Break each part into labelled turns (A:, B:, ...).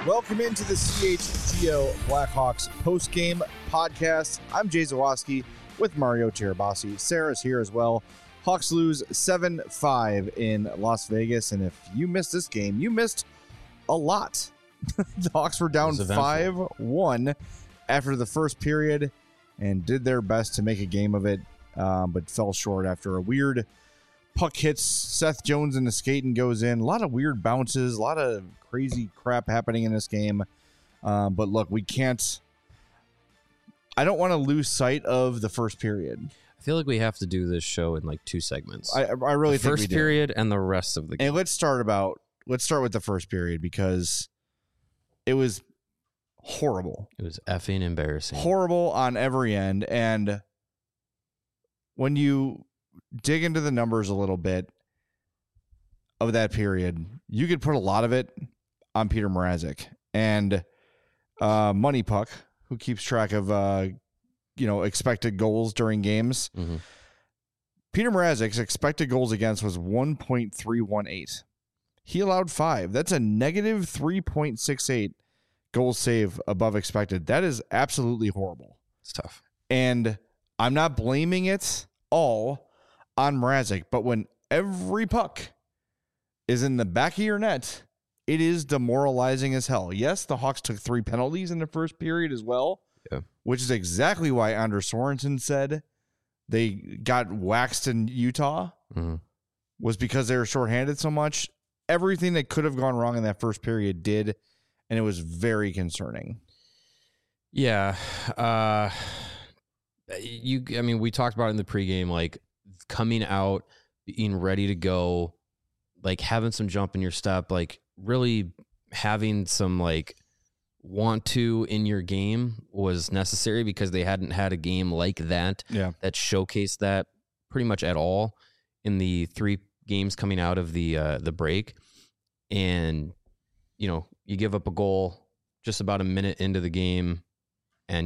A: Welcome into the CHGO Blackhawks post-game podcast. I'm Jay Zawaski with Mario Tirabassi. Sarah's here as well. Hawks lose 7-5 in Las Vegas, and if you missed this game, you missed a lot. The Hawks were down 5-1 after the first period and did their best to make a game of it, but fell short after a weird puck hits Seth Jones in the skate and goes in. A lot of weird bounces, a lot of crazy crap happening in this game. But look, I don't want to lose sight of the first period.
B: I feel like we have to do this show in like two segments.
A: I really think we do.
B: First period and the rest of the game.
A: And let's start with the first period because it was horrible.
B: It was effing embarrassing.
A: Horrible on every end. And when you dig into the numbers a little bit of that period, you could put a lot of it on Peter Mrazek and Money Puck, who keeps track of expected goals during games.
B: Mm-hmm.
A: Peter Mrazek's expected goals against was 1.318. He allowed 5. That's a negative 3.68 goal save above expected. That is absolutely horrible.
B: It's tough.
A: And I'm not blaming it all on Mrazek, but when every puck is in the back of your net, it is demoralizing as hell. Yes, the Hawks took 3 penalties in the first period as well, which is exactly why Anders Sorensen said they got waxed in Utah, was because they were shorthanded so much. Everything that could have gone wrong in that first period did, and it was very concerning.
B: Yeah. We talked about it in the pregame, like coming out, being ready to go, like having some jump in your step, like really having some like want to in your game was necessary because they hadn't had a game like that that showcased that pretty much at all in the 3 games coming out of the break. And you give up a goal just about a minute into the game, and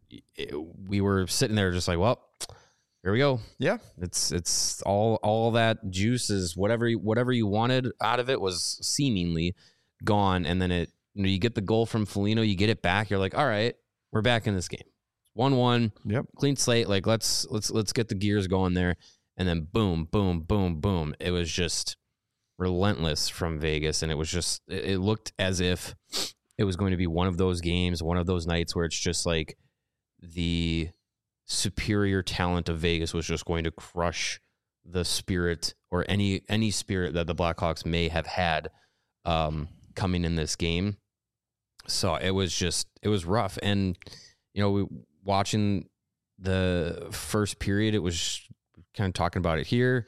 B: we were sitting there just like, well, here we go. Yeah. It's all that juice is whatever you wanted out of it was seemingly gone. And then you get the goal from Foligno, you get it back. You're like, all right, we're back in this game. 1-1. Yep. Clean slate. Like let's get the gears going there. And then boom, boom, boom, boom. It was just relentless from Vegas. And it was just, it looked as if it was going to be one of those games, one of those nights where it's just like the superior talent of Vegas was just going to crush the spirit or any spirit that the Blackhawks may have had coming in this game. So it was rough. And, watching the first period, it was kind of talking about it here.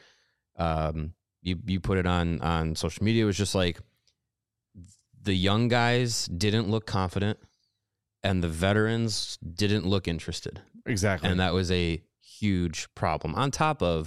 B: You put it on social media. It was just like the young guys didn't look confident and the veterans didn't look interested.
A: Exactly.
B: And that was a huge problem. On top of,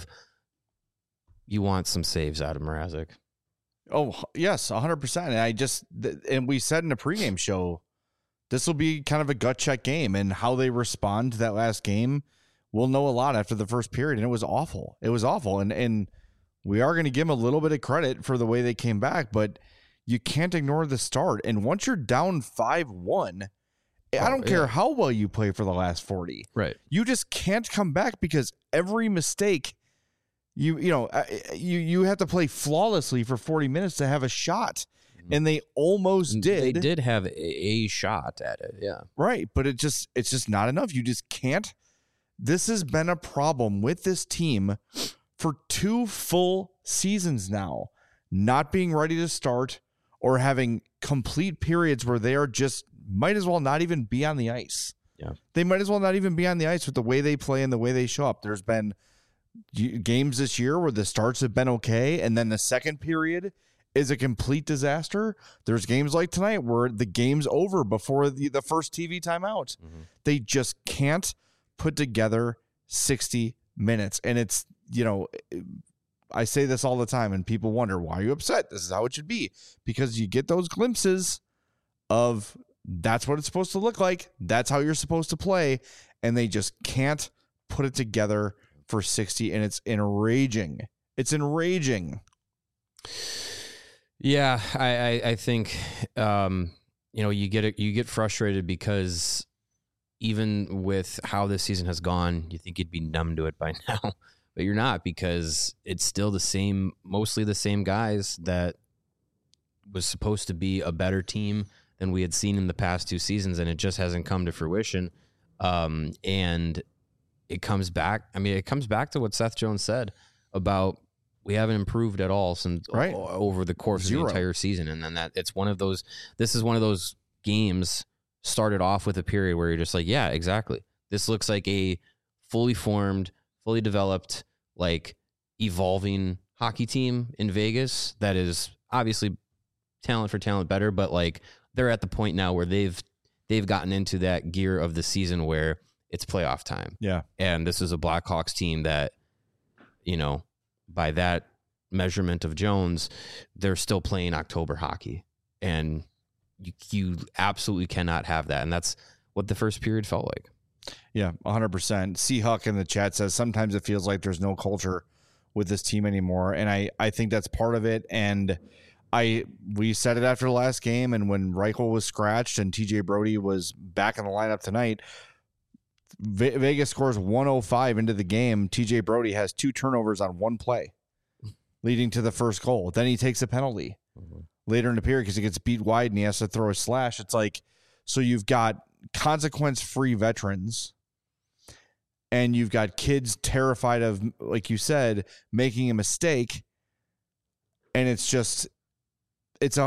B: you want some saves out of Mrazek.
A: Oh, yes, 100%. And we said in a pregame show, this will be kind of a gut check game, and how they respond to that last game, we'll know a lot after the first period. And it was awful. It was awful. And we are going to give them a little bit of credit for the way they came back, but you can't ignore the start. And once you're down 5-1, I don't care how well you play for the last 40.
B: Right.
A: You just can't come back because every mistake, you have to play flawlessly for 40 minutes to have a shot. And they almost did.
B: They did have a shot at it. Yeah.
A: Right. But it's just not enough. You just can't. This has been a problem with this team for 2 full seasons now, not being ready to start or having complete periods where they are just might as well not even be on the ice.
B: Yeah.
A: They might as well not even be on the ice with the way they play and the way they show up. There's been games this year where the starts have been okay, and then the second period is a complete disaster. There's games like tonight where the game's over before the first TV timeout. Mm-hmm. They just can't put together 60 minutes. And it's, I say this all the time, and people wonder, why are you upset? This is how it should be. Because you get those glimpses of that's what it's supposed to look like. That's how you're supposed to play. And they just can't put it together for 60. And it's enraging. It's enraging.
B: Yeah, I think, you get frustrated because even with how this season has gone, you think you'd be numb to it by now, but you're not, because it's still mostly the same guys that was supposed to be a better team than we had seen in the past 2 seasons, and it just hasn't come to fruition. And it comes back. I mean, it comes back to what Seth Jones said about we haven't improved at all since over the course of the entire season. And then this is one of those games started off with a period where you're just like, yeah, exactly. This looks like a fully formed, fully developed, like evolving hockey team in Vegas that is obviously talent for talent better, but like they're at the point now where they've gotten into that gear of the season where it's playoff time.
A: Yeah.
B: And this is a Blackhawks team that, by that measurement of Jones, they're still playing October hockey. And you absolutely cannot have that. And that's what the first period felt like.
A: Yeah, 100%. C. Huck in the chat says sometimes it feels like there's no culture with this team anymore. And I think that's part of it. And we said it after the last game, and when Reichel was scratched and TJ Brody was back in the lineup tonight, Vegas scores 105 into the game. TJ Brody has 2 turnovers on 1 play, leading to the first goal. Then he takes a penalty later in the period because he gets beat wide and he has to throw a slash. It's like, so you've got consequence-free veterans, and you've got kids terrified of, like you said, making a mistake, and it's just it's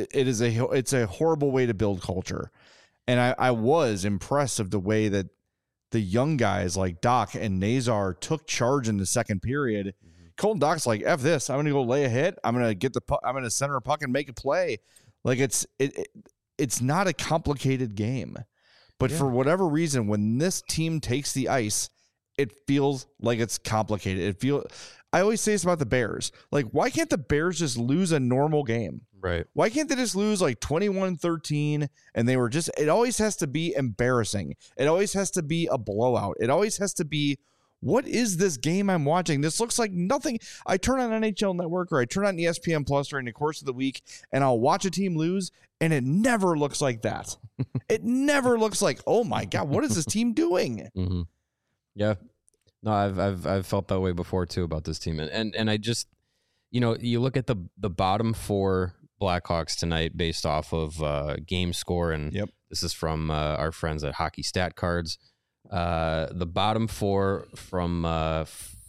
A: a horrible way to build culture. And I was impressed of the way that the young guys like Doc and Nazar took charge in the second period. Mm-hmm. Colton Doc's like, F this. I'm going to go lay a hit. I'm going to get the puck. I'm going to center a puck and make a play. Like it's not a complicated game, but for whatever reason, when this team takes the ice, it feels like it's complicated. I always say this about the Bears. Like, why can't the Bears just lose a normal game?
B: Right.
A: Why can't they just lose like 21-13 and they were just, it always has to be embarrassing. It always has to be a blowout. It always has to be, what is this game I'm watching? This looks like nothing. I turn on NHL Network or I turn on ESPN Plus during the course of the week and I'll watch a team lose, and it never looks like that. It never looks like, oh my God, what is this team doing?
B: Mm-hmm. Yeah. No, I've felt that way before too about this team. And I just, you look at the bottom 4 Blackhawks tonight based off of game score, and this is from our friends at Hockey Stat Cards. The bottom 4 from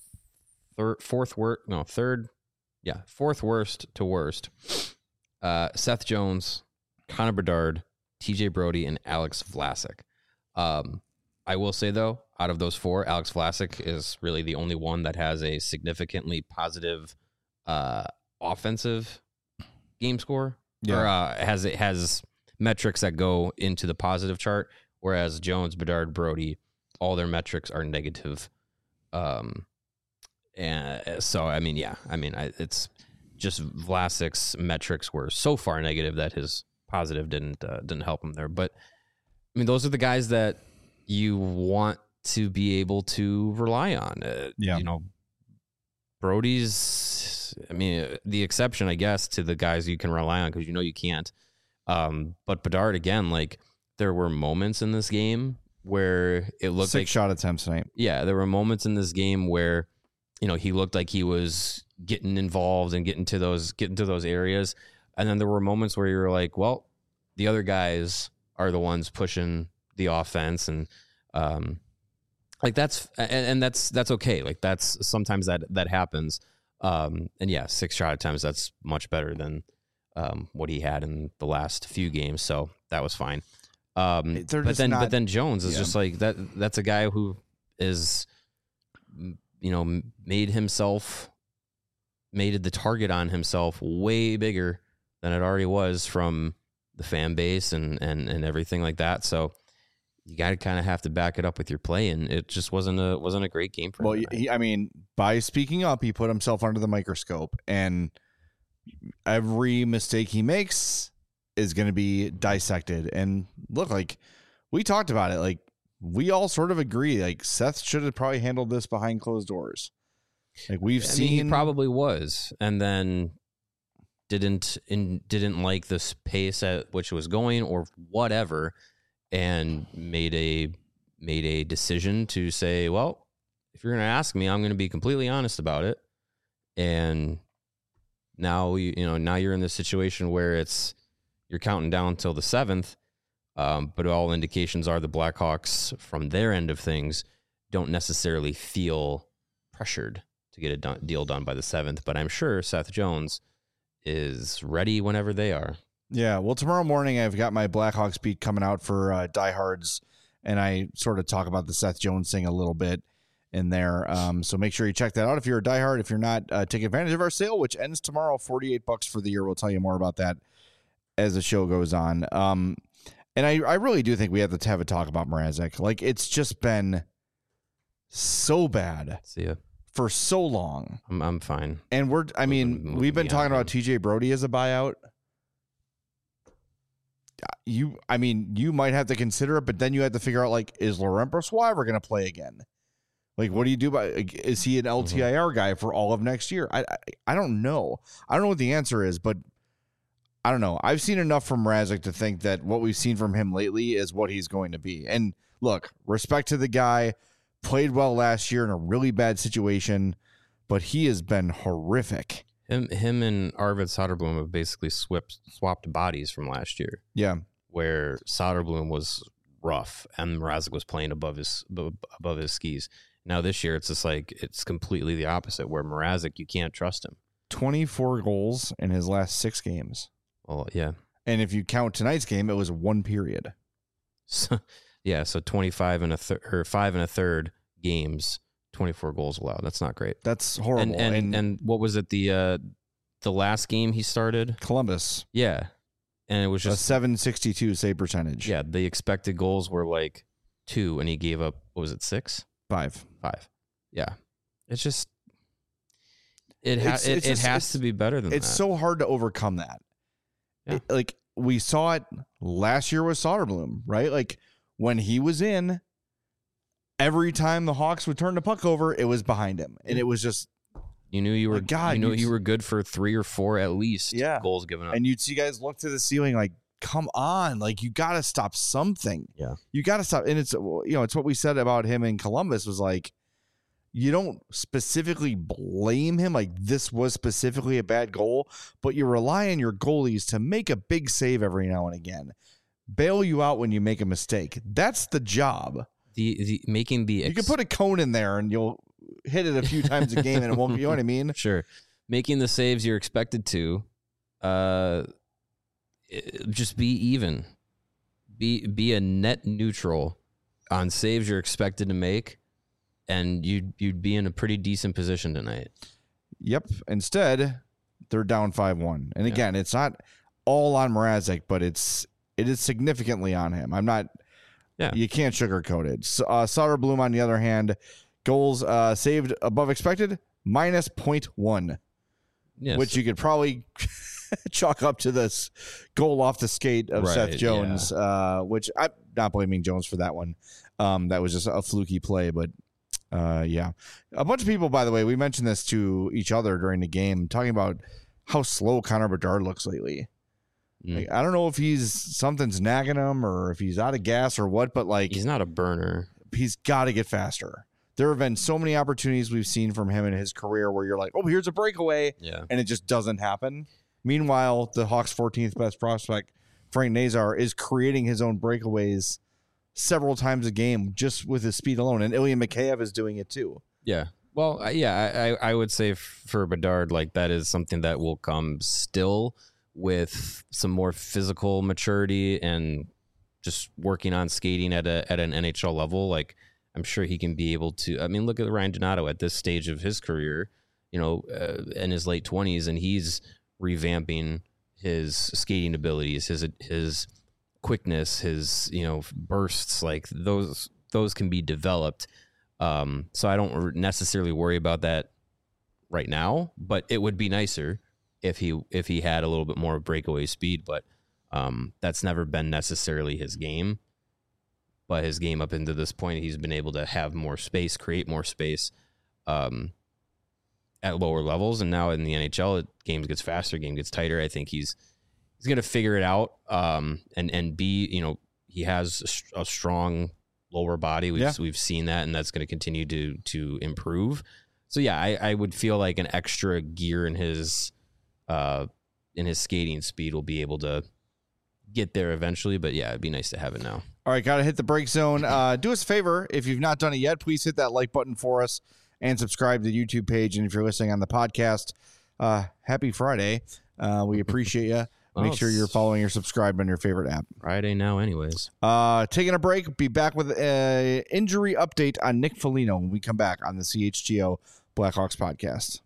B: fourth worst to worst. Seth Jones, Connor Bedard, TJ Brody, and Alex Vlasic. I will say though, out of those 4, Alex Vlasic is really the only one that has a significantly positive offensive game score. Or has metrics that go into the positive chart, whereas Jones, Bedard, Brody, all their metrics are negative. And so it's just Vlasic's metrics were so far negative that his positive didn't help him there. But I mean, those are the guys that you want to be able to rely on. Brody's, the exception, I guess, to the guys you can rely on because you can't. But Bedard, again, like there were moments in this game where it looked
A: 6 shot attempts tonight.
B: Yeah, there were moments in this game where he looked like he was getting involved and getting to those areas, and then there were moments where you were like, well, the other guys are the ones pushing the offense, and that's okay. Like that's sometimes that happens. And yeah, 6 shot attempts, that's much better than what he had in the last few games. So that was fine. But then Jones is just like that. That's a guy who is, made the target on himself way bigger than it already was from the fan base and everything like that. So you got to kind of have to back it up with your play, and it just wasn't a great game for him.
A: Well, by speaking up, he put himself under the microscope, and every mistake he makes is going to be dissected. And look, like we talked about it, like we all sort of agree, like Seth should have probably handled this behind closed doors. Like he probably
B: was, and then didn't like the pace at which it was going or whatever, and made a decision to say, well, if you're going to ask me, I'm going to be completely honest about it. And now now you're in this situation where you're counting down till the 7th. But all indications are the Blackhawks, from their end of things, don't necessarily feel pressured to get a deal done by the 7th. But I'm sure Seth Jones is ready whenever they are.
A: Yeah, well, tomorrow morning I've got my Blackhawks beat coming out for diehards, and I sort of talk about the Seth Jones thing a little bit in there. So make sure you check that out if you're a diehard. If you're not, take advantage of our sale, which ends tomorrow, $48 for the year. We'll tell you more about that as the show goes on. And I really do think we have to have a talk about Mrazek. Like, it's just been so bad.
B: See ya.
A: For so long.
B: I'm fine.
A: And we've been talking about TJ Brody as a buyout. You might have to consider it, but then you have to figure out, like, is Laurent Brossoit ever going to play again? Like, what do you do is he an LTIR guy for all of next year? I don't know. I don't know what the answer is, but I don't know. I've seen enough from Mrazek to think that what we've seen from him lately is what he's going to be. And look, respect to the guy, played well last year in a really bad situation, but he has been horrific.
B: Him and Arvid Soderblom have basically swapped bodies from last year.
A: Yeah.
B: Where Soderblom was rough and Mrazek was playing above his skis. Now this year, it's just like, it's completely the opposite, where Mrazek, you can't trust him.
A: 24 goals in his last 6 games.
B: Well, yeah.
A: And if you count tonight's game, it was 1 period.
B: So 25 and 5 1/3 games, 24 goals allowed. That's not great.
A: That's horrible.
B: And what was it, the last game he started?
A: Columbus.
B: Yeah. And it was just
A: a .762 save percentage.
B: Yeah, the expected goals were like 2, and he gave up, what was it, 6?
A: 5.
B: Yeah. It's just it has to be better than that.
A: It's so hard to overcome that.
B: Yeah.
A: Like, we saw it last year with Soderblom, right? Like, when he was in, every time the Hawks would turn the puck over, it was behind him. And it was just,
B: you knew you were you were good for 3 or 4 at least goals given up.
A: And you'd see guys look to the ceiling like, come on, like, you got to stop something.
B: Yeah.
A: You got to stop. And it's, it's what we said about him in Columbus was like, you don't specifically blame him. Like, this was specifically a bad goal, but you rely on your goalies to make a big save every now and again. Bail you out when you make a mistake. That's the job.
B: You can
A: put a cone in there and you'll hit it a few times a game and it won't, you know what I mean?
B: Sure. Making the saves you're expected to, just be even. Be a net neutral on saves you're expected to make, and you'd be in a pretty decent position tonight. Yep.
A: Instead, they're down 5-1. And again, it's not all on Mrazek, but it is significantly on him. You can't sugarcoat it. Soderblom, on the other hand, goals saved above expected, minus 0.1.
B: Yes.
A: Which you could probably chalk up to this goal off the skate of Seth Jones, which I'm not blaming Jones for that one. That was just a fluky play, but a bunch of people, by the way, we mentioned this to each other during the game, talking about how slow Connor Bedard looks lately. Like, I don't know if something's nagging him or if he's out of gas or what, but like,
B: he's not a burner.
A: He's got to get faster. There have been so many opportunities we've seen from him in his career where you're like, oh, here's a breakaway, and it just doesn't happen. Meanwhile, the Hawks' 14th best prospect, Frank Nazar, is creating his own breakaways several times a game just with his speed alone, and Ilya Mikheyev is doing it too.
B: Yeah. Well, I would say for Bedard, like, that is something that will come still with some more physical maturity and just working on skating at an NHL level. Like, I'm sure he can be able to. I mean, look at Ryan Donato at this stage of his career, in his late 20s, and he's revamping his skating abilities, his quickness, his bursts. Like, those can be developed. So I don't necessarily worry about that right now, but it would be nicer if he had a little bit more breakaway speed, but that's never been necessarily his game. But his game up into this point, he's been able to have more space, create more space, at lower levels, and now in the NHL, games gets faster, game gets tighter. I think he's going to figure it out, and be, he has a strong lower body. We've seen that, and that's going to continue to improve. So yeah, I would feel like an extra gear in his skating speed will be able to get there eventually. But yeah, it'd be nice to have it now.
A: All right, got to hit the break zone. Do us a favor. If you've not done it yet, please hit that like button for us and subscribe to the YouTube page. And if you're listening on the podcast, happy Friday. We appreciate you. Make sure you're following or subscribed on your favorite app.
B: Friday now anyways.
A: Taking a break. Be back with an injury update on Nick Foligno when we come back on the CHGO Blackhawks podcast.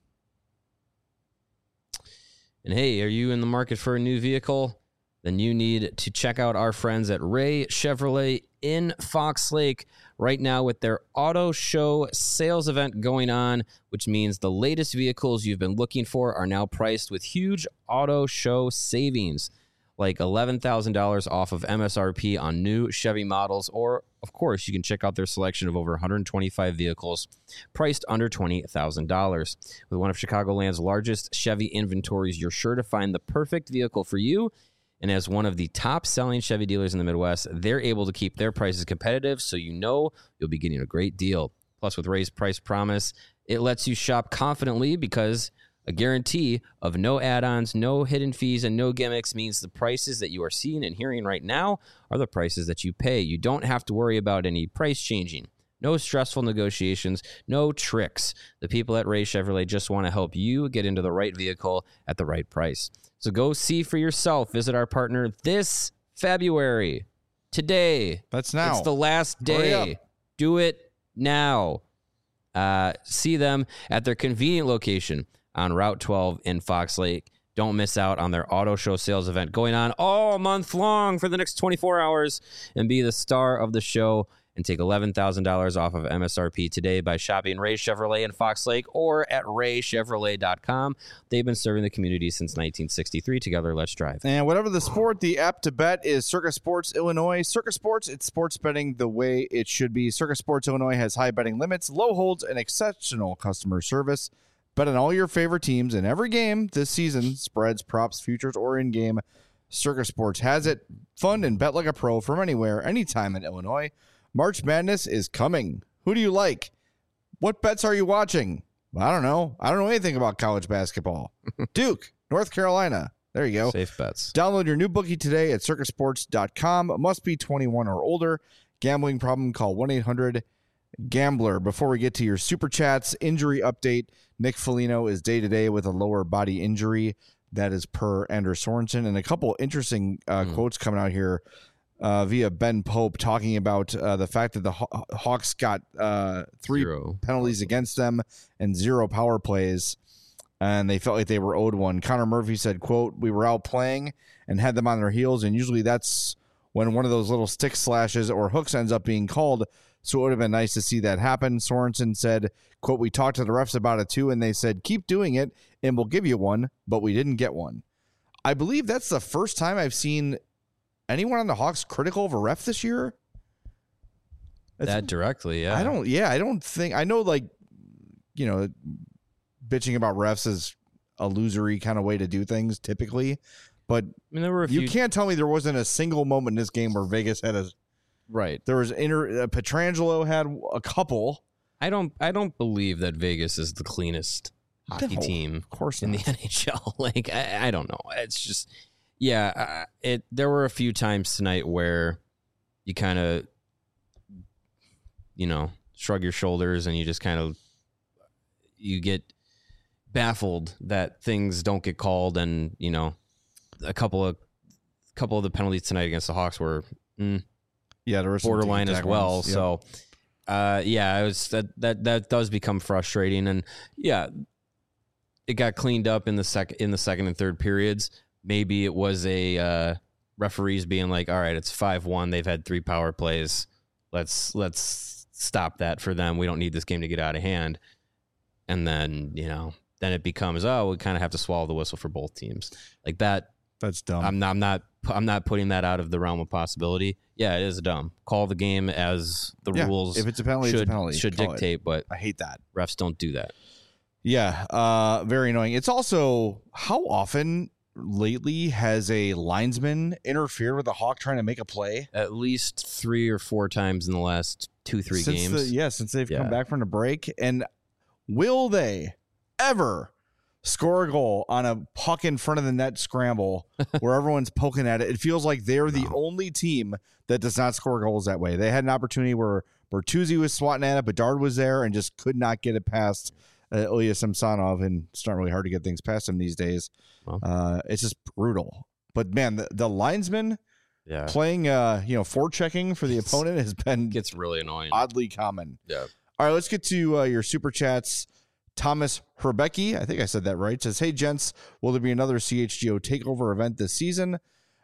B: And hey, are you in the market for a new vehicle? Then you need to check out our friends at Ray Chevrolet in Fox Lake right now with their auto show sales event going on, which means the latest vehicles you've been looking for are now priced with huge auto show savings, like $11,000 off of MSRP on new Chevy models, or, of course, you can check out their selection of over 125 vehicles priced under $20,000. With one of Chicagoland's largest Chevy inventories, you're sure to find the perfect vehicle for you. And as one of the top-selling Chevy dealers in the Midwest, they're able to keep their prices competitive, so you'll be getting a great deal. Plus, with Ray's Price Promise, it lets you shop confidently because a guarantee of no add-ons, no hidden fees, and no gimmicks means the prices that you are seeing and hearing right now are the prices that you pay. You don't have to worry about any price changing. No stressful negotiations, no tricks. The people at Ray Chevrolet just want to help you get into the right vehicle at the right price. So go see for yourself. Visit our partner this February. Today.
A: That's now.
B: It's the last day. Do it now. See them at their convenient location on Route 12 in Fox Lake. Don't miss out on their auto show sales event going on all month long for the next 24 hours and be the star of the show and take $11,000 off of MSRP today by shopping Ray Chevrolet in Fox Lake or at raychevrolet.com. They've been serving the community since 1963. Together, let's drive.
A: And whatever the sport, the app to bet is Circa Sports Illinois. Circa Sports, it's sports betting the way it should be. Circa Sports Illinois has high betting limits, low holds, and exceptional customer service. Bet on all your favorite teams in every game this season, spreads, props, futures, or in-game. Circa Sports has it. Fun and bet like a pro from anywhere, anytime in Illinois. March Madness is coming. Who do you like? What bets are you watching? I don't know. I don't know anything about college basketball. Duke, North Carolina. There you go.
B: Safe bets.
A: Download your new bookie today at circasports.com. Must be 21 or older. Gambling problem, call 1-800-GAMBLER. Before we get to your super chats, injury update. Nick Foligno is day-to-day with a lower body injury. That is per Anders Sorensen. And a couple interesting quotes coming out here via Ben Pope talking about the fact that the Hawks got 3 penalties against them and 0 power plays, and they felt like they were owed one. Connor Murphy said, quote, "We were out playing and had them on their heels, and usually that's when one of those little stick slashes or hooks ends up being called, so it would have been nice to see that happen." Sorensen said, quote, "We talked to the refs about it too, and they said, keep doing it, and we'll give you one, but we didn't get one." I believe that's the first time I've seen anyone on the Hawks critical of a ref this year?
B: That directly, yeah.
A: I don't think, I know, like, you know, bitching about refs is a losery kind of way to do things typically, but
B: I mean, there were
A: you can't tell me there wasn't a single moment in this game where Vegas had a
B: right.
A: There was Pietrangelo had a couple.
B: I don't believe that Vegas is the cleanest hockey team,
A: of course,
B: in the NHL. Like, I don't know. It's just. Yeah, there were a few times tonight where you kind of, shrug your shoulders and you just kind of, you get baffled that things don't get called, and a couple of the penalties tonight against the Hawks were there were borderline as well. Yep. So, it was that does become frustrating, and it got cleaned up in the second and third periods. Maybe it was a referees being like, all right, it's 5-1. They've had 3 power plays. Let's stop that for them. We don't need this game to get out of hand. And then, then it becomes, we kind of have to swallow the whistle for both teams. Like that.
A: That's dumb.
B: I'm not putting that out of the realm of possibility. Yeah, it is dumb. Call the game as the rules.
A: If it's a penalty, it's a penalty.
B: Should dictate, but
A: I hate that.
B: Refs don't do that.
A: Yeah, very annoying. It's also how often lately has a linesman interfered with a Hawk trying to make a play?
B: At least 3 or 4 times in the last 2-3 games.
A: Since they've come back from the break. And will they ever score a goal on a puck in front of the net scramble where everyone's poking at it? It feels like they're the only team that does not score goals that way. They had an opportunity where Bertuzzi was swatting at it, Bedard was there and just could not get it past Ilya Samsonov, and it's not really hard to get things past him these days. Well, it's just brutal. But man, the linesman playing, forechecking for the opponent has been
B: gets really annoying,
A: oddly common.
B: Yeah.
A: All right, let's get to your super chats. Thomas Herbecki, I think I said that right, says, "Hey gents, will there be another CHGO takeover event this season?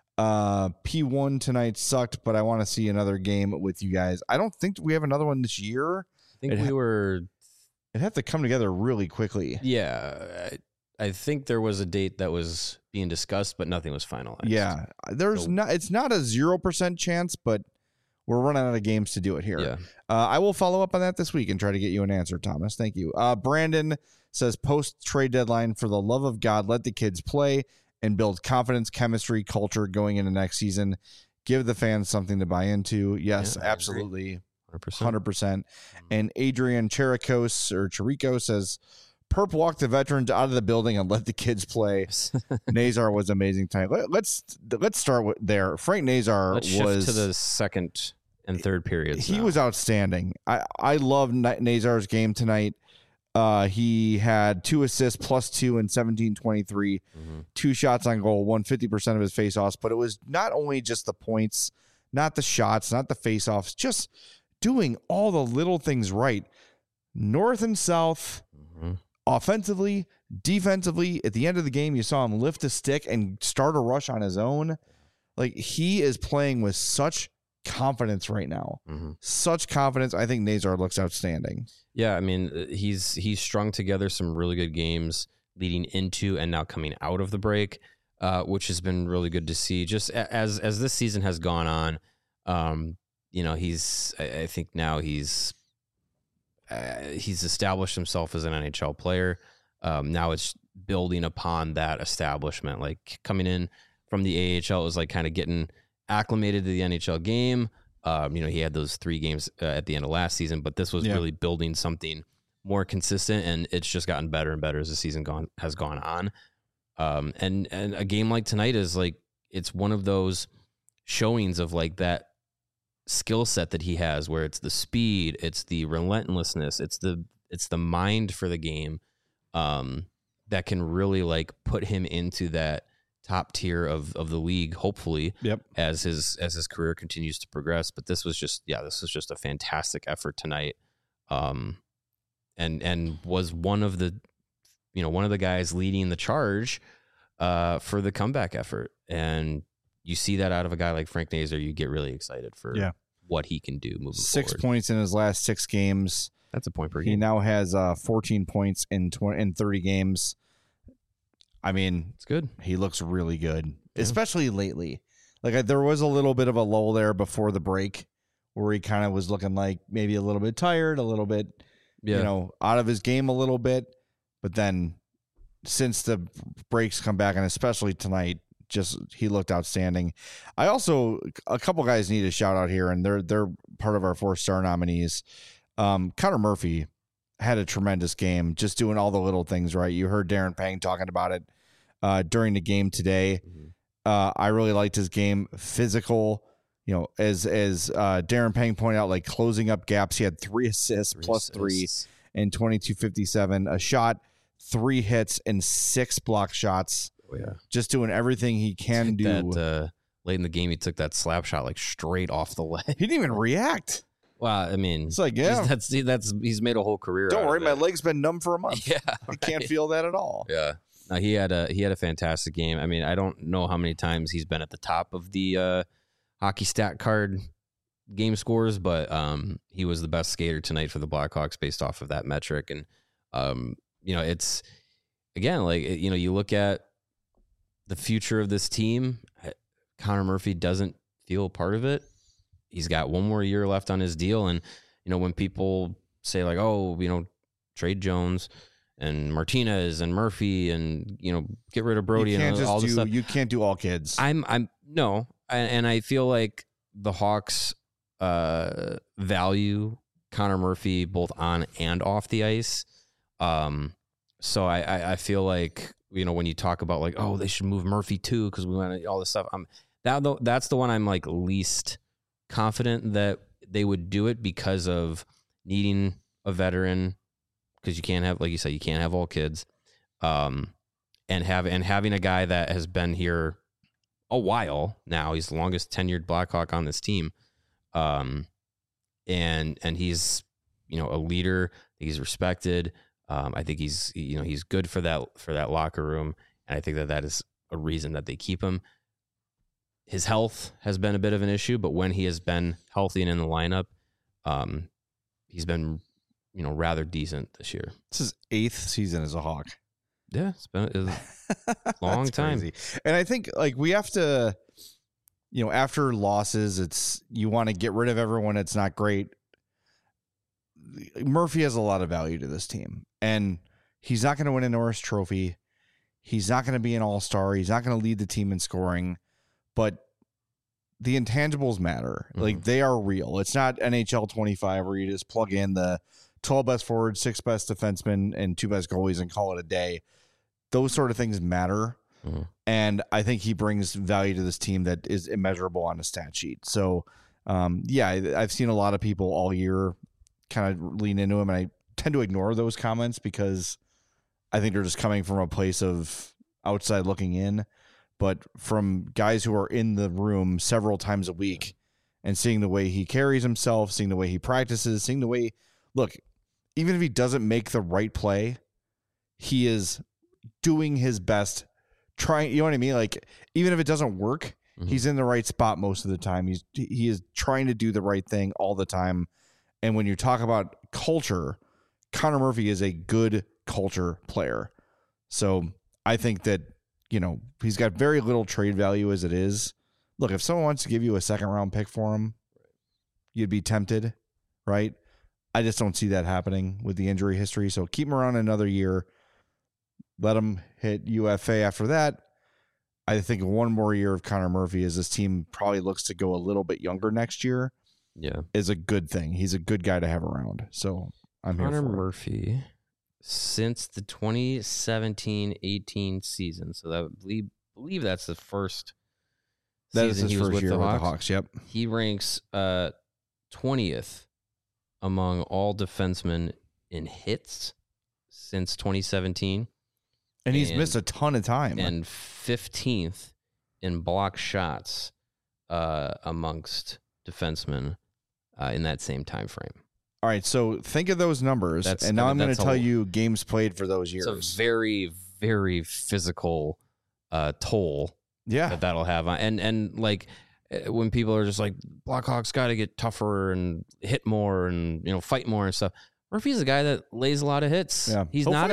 A: P1 tonight sucked, but I want to see another game with you guys. I don't think we have another one this year.
B: I think
A: it'd have to come together really quickly.
B: Yeah, I think there was a date that was being discussed, but nothing was finalized.
A: Yeah, it's not a 0% chance, but we're running out of games to do it here.
B: Yeah.
A: I will follow up on that this week and try to get you an answer, Thomas. Thank you. Brandon says, post trade deadline, for the love of God, let the kids play and build confidence, chemistry, culture going into next season. Give the fans something to buy into. Yes, absolutely. 100%. And Adrian Chirico says, Perp walked the veterans out of the building and let the kids play. Nazar was amazing tonight. Let's start with there. Frank Nazar
B: was to the second and third periods.
A: He was outstanding. I love Nazar's game tonight. He had 2 assists +2 in 17-23, 2 shots on goal, won 50% of his faceoffs. But it was not only just the points, not the shots, not the faceoffs, just doing all the little things right. North and south, offensively, defensively. At the end of the game, you saw him lift a stick and start a rush on his own. Like, he is playing with such confidence right now. Such confidence. I think Nazar looks outstanding.
B: Yeah, I mean, he's strung together some really good games leading into and now coming out of the break, which has been really good to see. Just as this season has gone on, I think now he's established himself as an NHL player. Now it's building upon that establishment. Like, coming in from the AHL, it was like kind of getting acclimated to the NHL game. He had those 3 games at the end of last season, but this was really building something more consistent, and it's just gotten better and better as the season has gone on. And a game like tonight is like, it's one of those showings of like that skill set that he has, where it's the speed, it's the relentlessness, it's the mind for the game, that can really like put him into that top tier of the league, hopefully, as his career continues to progress. But this was just a fantastic effort tonight, and was one of the guys leading the charge for the comeback effort. And you see that out of a guy like Frank Nazar, you get really excited for what he can do moving
A: 6
B: forward.
A: points in his last 6 games.
B: That's a point per game.
A: He now has 14 points in 30 games. I mean,
B: it's good.
A: He looks really good, especially lately. Like, there was a little bit of a lull there before the break where he kind of was looking like maybe a little bit tired, a little bit, out of his game a little bit. But then since the breaks come back, and especially tonight, he looked outstanding. A couple guys need a shout out here, and they're part of our 4-star nominees. Connor Murphy had a tremendous game, just doing all the little things right. You heard Darren Pang talking about it during the game today. I really liked his game. Physical, as Darren Pang pointed out, like closing up gaps. He had 3 assists +3 in 22:57, a shot, 3 hits, and 6 block shots.
B: Oh, yeah.
A: Just doing everything he can do.
B: Late in the game, he took that slap shot like straight off the leg.
A: He didn't even react.
B: Well, I mean,
A: it's like,
B: he's made a whole career.
A: Don't worry, my leg's been numb for a month.
B: Yeah,
A: I can't feel that at all.
B: Yeah, no, he had a fantastic game. I mean, I don't know how many times he's been at the top of the hockey stat card game scores, but he was the best skater tonight for the Blackhawks based off of that metric. And it's again like you look at the future of this team. Connor Murphy doesn't feel part of it. He's got 1 more year left on his deal. And, when people say like, oh, trade Jones and Martinez and Murphy and, get rid of Brody and all this stuff.
A: You can't do all kids.
B: No. And I feel like the Hawks value Connor Murphy both on and off the ice. So I feel like, when you talk about like, oh, they should move Murphy too because we want all this stuff. That's the one I'm like least confident that they would do it because of needing a veteran, because you can't have, like you said, you can't have all kids, and having a guy that has been here a while now. He's the longest tenured Blackhawk on this team, and he's a leader. He's respected. I think he's good for that locker room, and I think that is a reason that they keep him. His health has been a bit of an issue, but when he has been healthy and in the lineup, he's been rather decent this year.
A: This is 8th season as a Hawk.
B: Yeah, it's been a long time.
A: Crazy. And I think like we have to, after losses, you want to get rid of everyone that's not great. Murphy has a lot of value to this team, and he's not going to win a Norris Trophy. He's not going to be an all-star. He's not going to lead the team in scoring, but the intangibles matter. Mm-hmm. Like, they are real. It's not NHL 25 where you just plug in the 12 best forwards, 6 best defensemen, and 2 best goalies and call it a day. Those sort of things matter. Mm-hmm. And I think he brings value to this team that is immeasurable on a stat sheet. So, I've seen a lot of people all year kind of lean into him, and I tend to ignore those comments because I think they're just coming from a place of outside looking in. But from guys who are in the room several times a week and seeing the way he carries himself, seeing the way he practices, seeing the way, look, even if he doesn't make the right play, he is doing his best, trying, you know what I mean? Like, even if it doesn't work, mm-hmm. he's in the right spot most of the time. He is trying to do the right thing all the time. And when you talk about culture, Connor Murphy is a good culture player. So I think that, he's got very little trade value as it is. Look, if someone wants to give you a 2nd-round pick for him, you'd be tempted, right? I just don't see that happening with the injury history. So keep him around another year. Let him hit UFA after that. I think one more year of Connor Murphy, as this team probably looks to go a little bit younger next year, is a good thing. He's a good guy to have around. So I'm here for
B: Connor Murphy since the 2017-18 season. So that believe that's the first season he was with the Hawks.
A: Yep.
B: He ranks 20th among all defensemen in hits since 2017.
A: And he's missed a ton of time.
B: And 15th in block shots amongst defensemen in that same time frame.
A: All right, so think of those numbers, and now I'm going to tell you games played for those years.
B: It's a very, very physical toll that'll have. And like, when people are just like, Blackhawks got to get tougher and hit more and, fight more and stuff. Murphy's a guy that lays a lot of hits. Yeah. He's not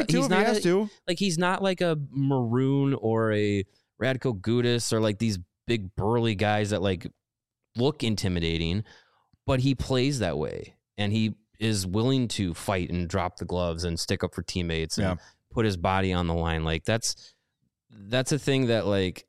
B: like a Maroon or a Radko Gudas or like these big burly guys that like look intimidating, but he plays that way. And he is willing to fight and drop the gloves and stick up for teammates and put his body on the line. Like that's a thing that like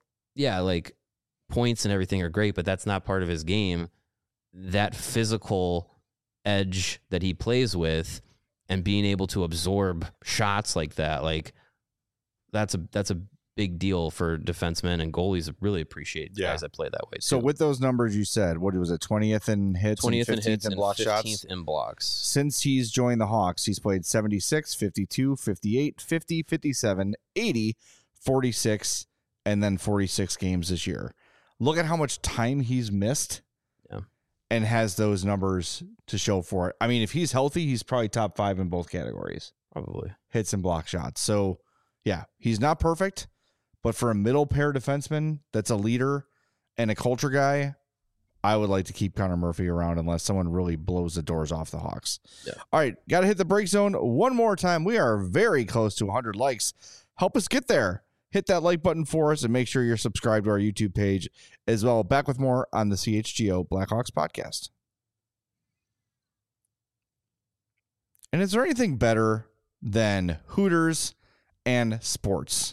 B: points and everything are great, but that's not part of his game. That physical edge that he plays with and being able to absorb shots like that, like that's a big deal for defensemen, and goalies really appreciate guys that play that way too.
A: So with those numbers you said, what was it, 20th in hits,
B: 20th
A: and
B: 15th
A: in block
B: 15th
A: shots?
B: in blocks.
A: Since he's joined the Hawks, he's played 76, 52, 58, 50, 57, 80, 46, and then 46 games this year. Look at how much time he's missed and has those numbers to show for it. I mean, if he's healthy, he's probably top 5 in both categories.
B: Probably.
A: Hits and block shots. So, he's not perfect. But for a middle pair defenseman that's a leader and a culture guy, I would like to keep Connor Murphy around unless someone really blows the doors off the Hawks. Yeah. All right, got to hit the break zone one more time. We are very close to 100 likes. Help us get there. Hit that like button for us and make sure you're subscribed to our YouTube page as well. Back with more on the CHGO Blackhawks podcast. And is there anything better than Hooters and sports?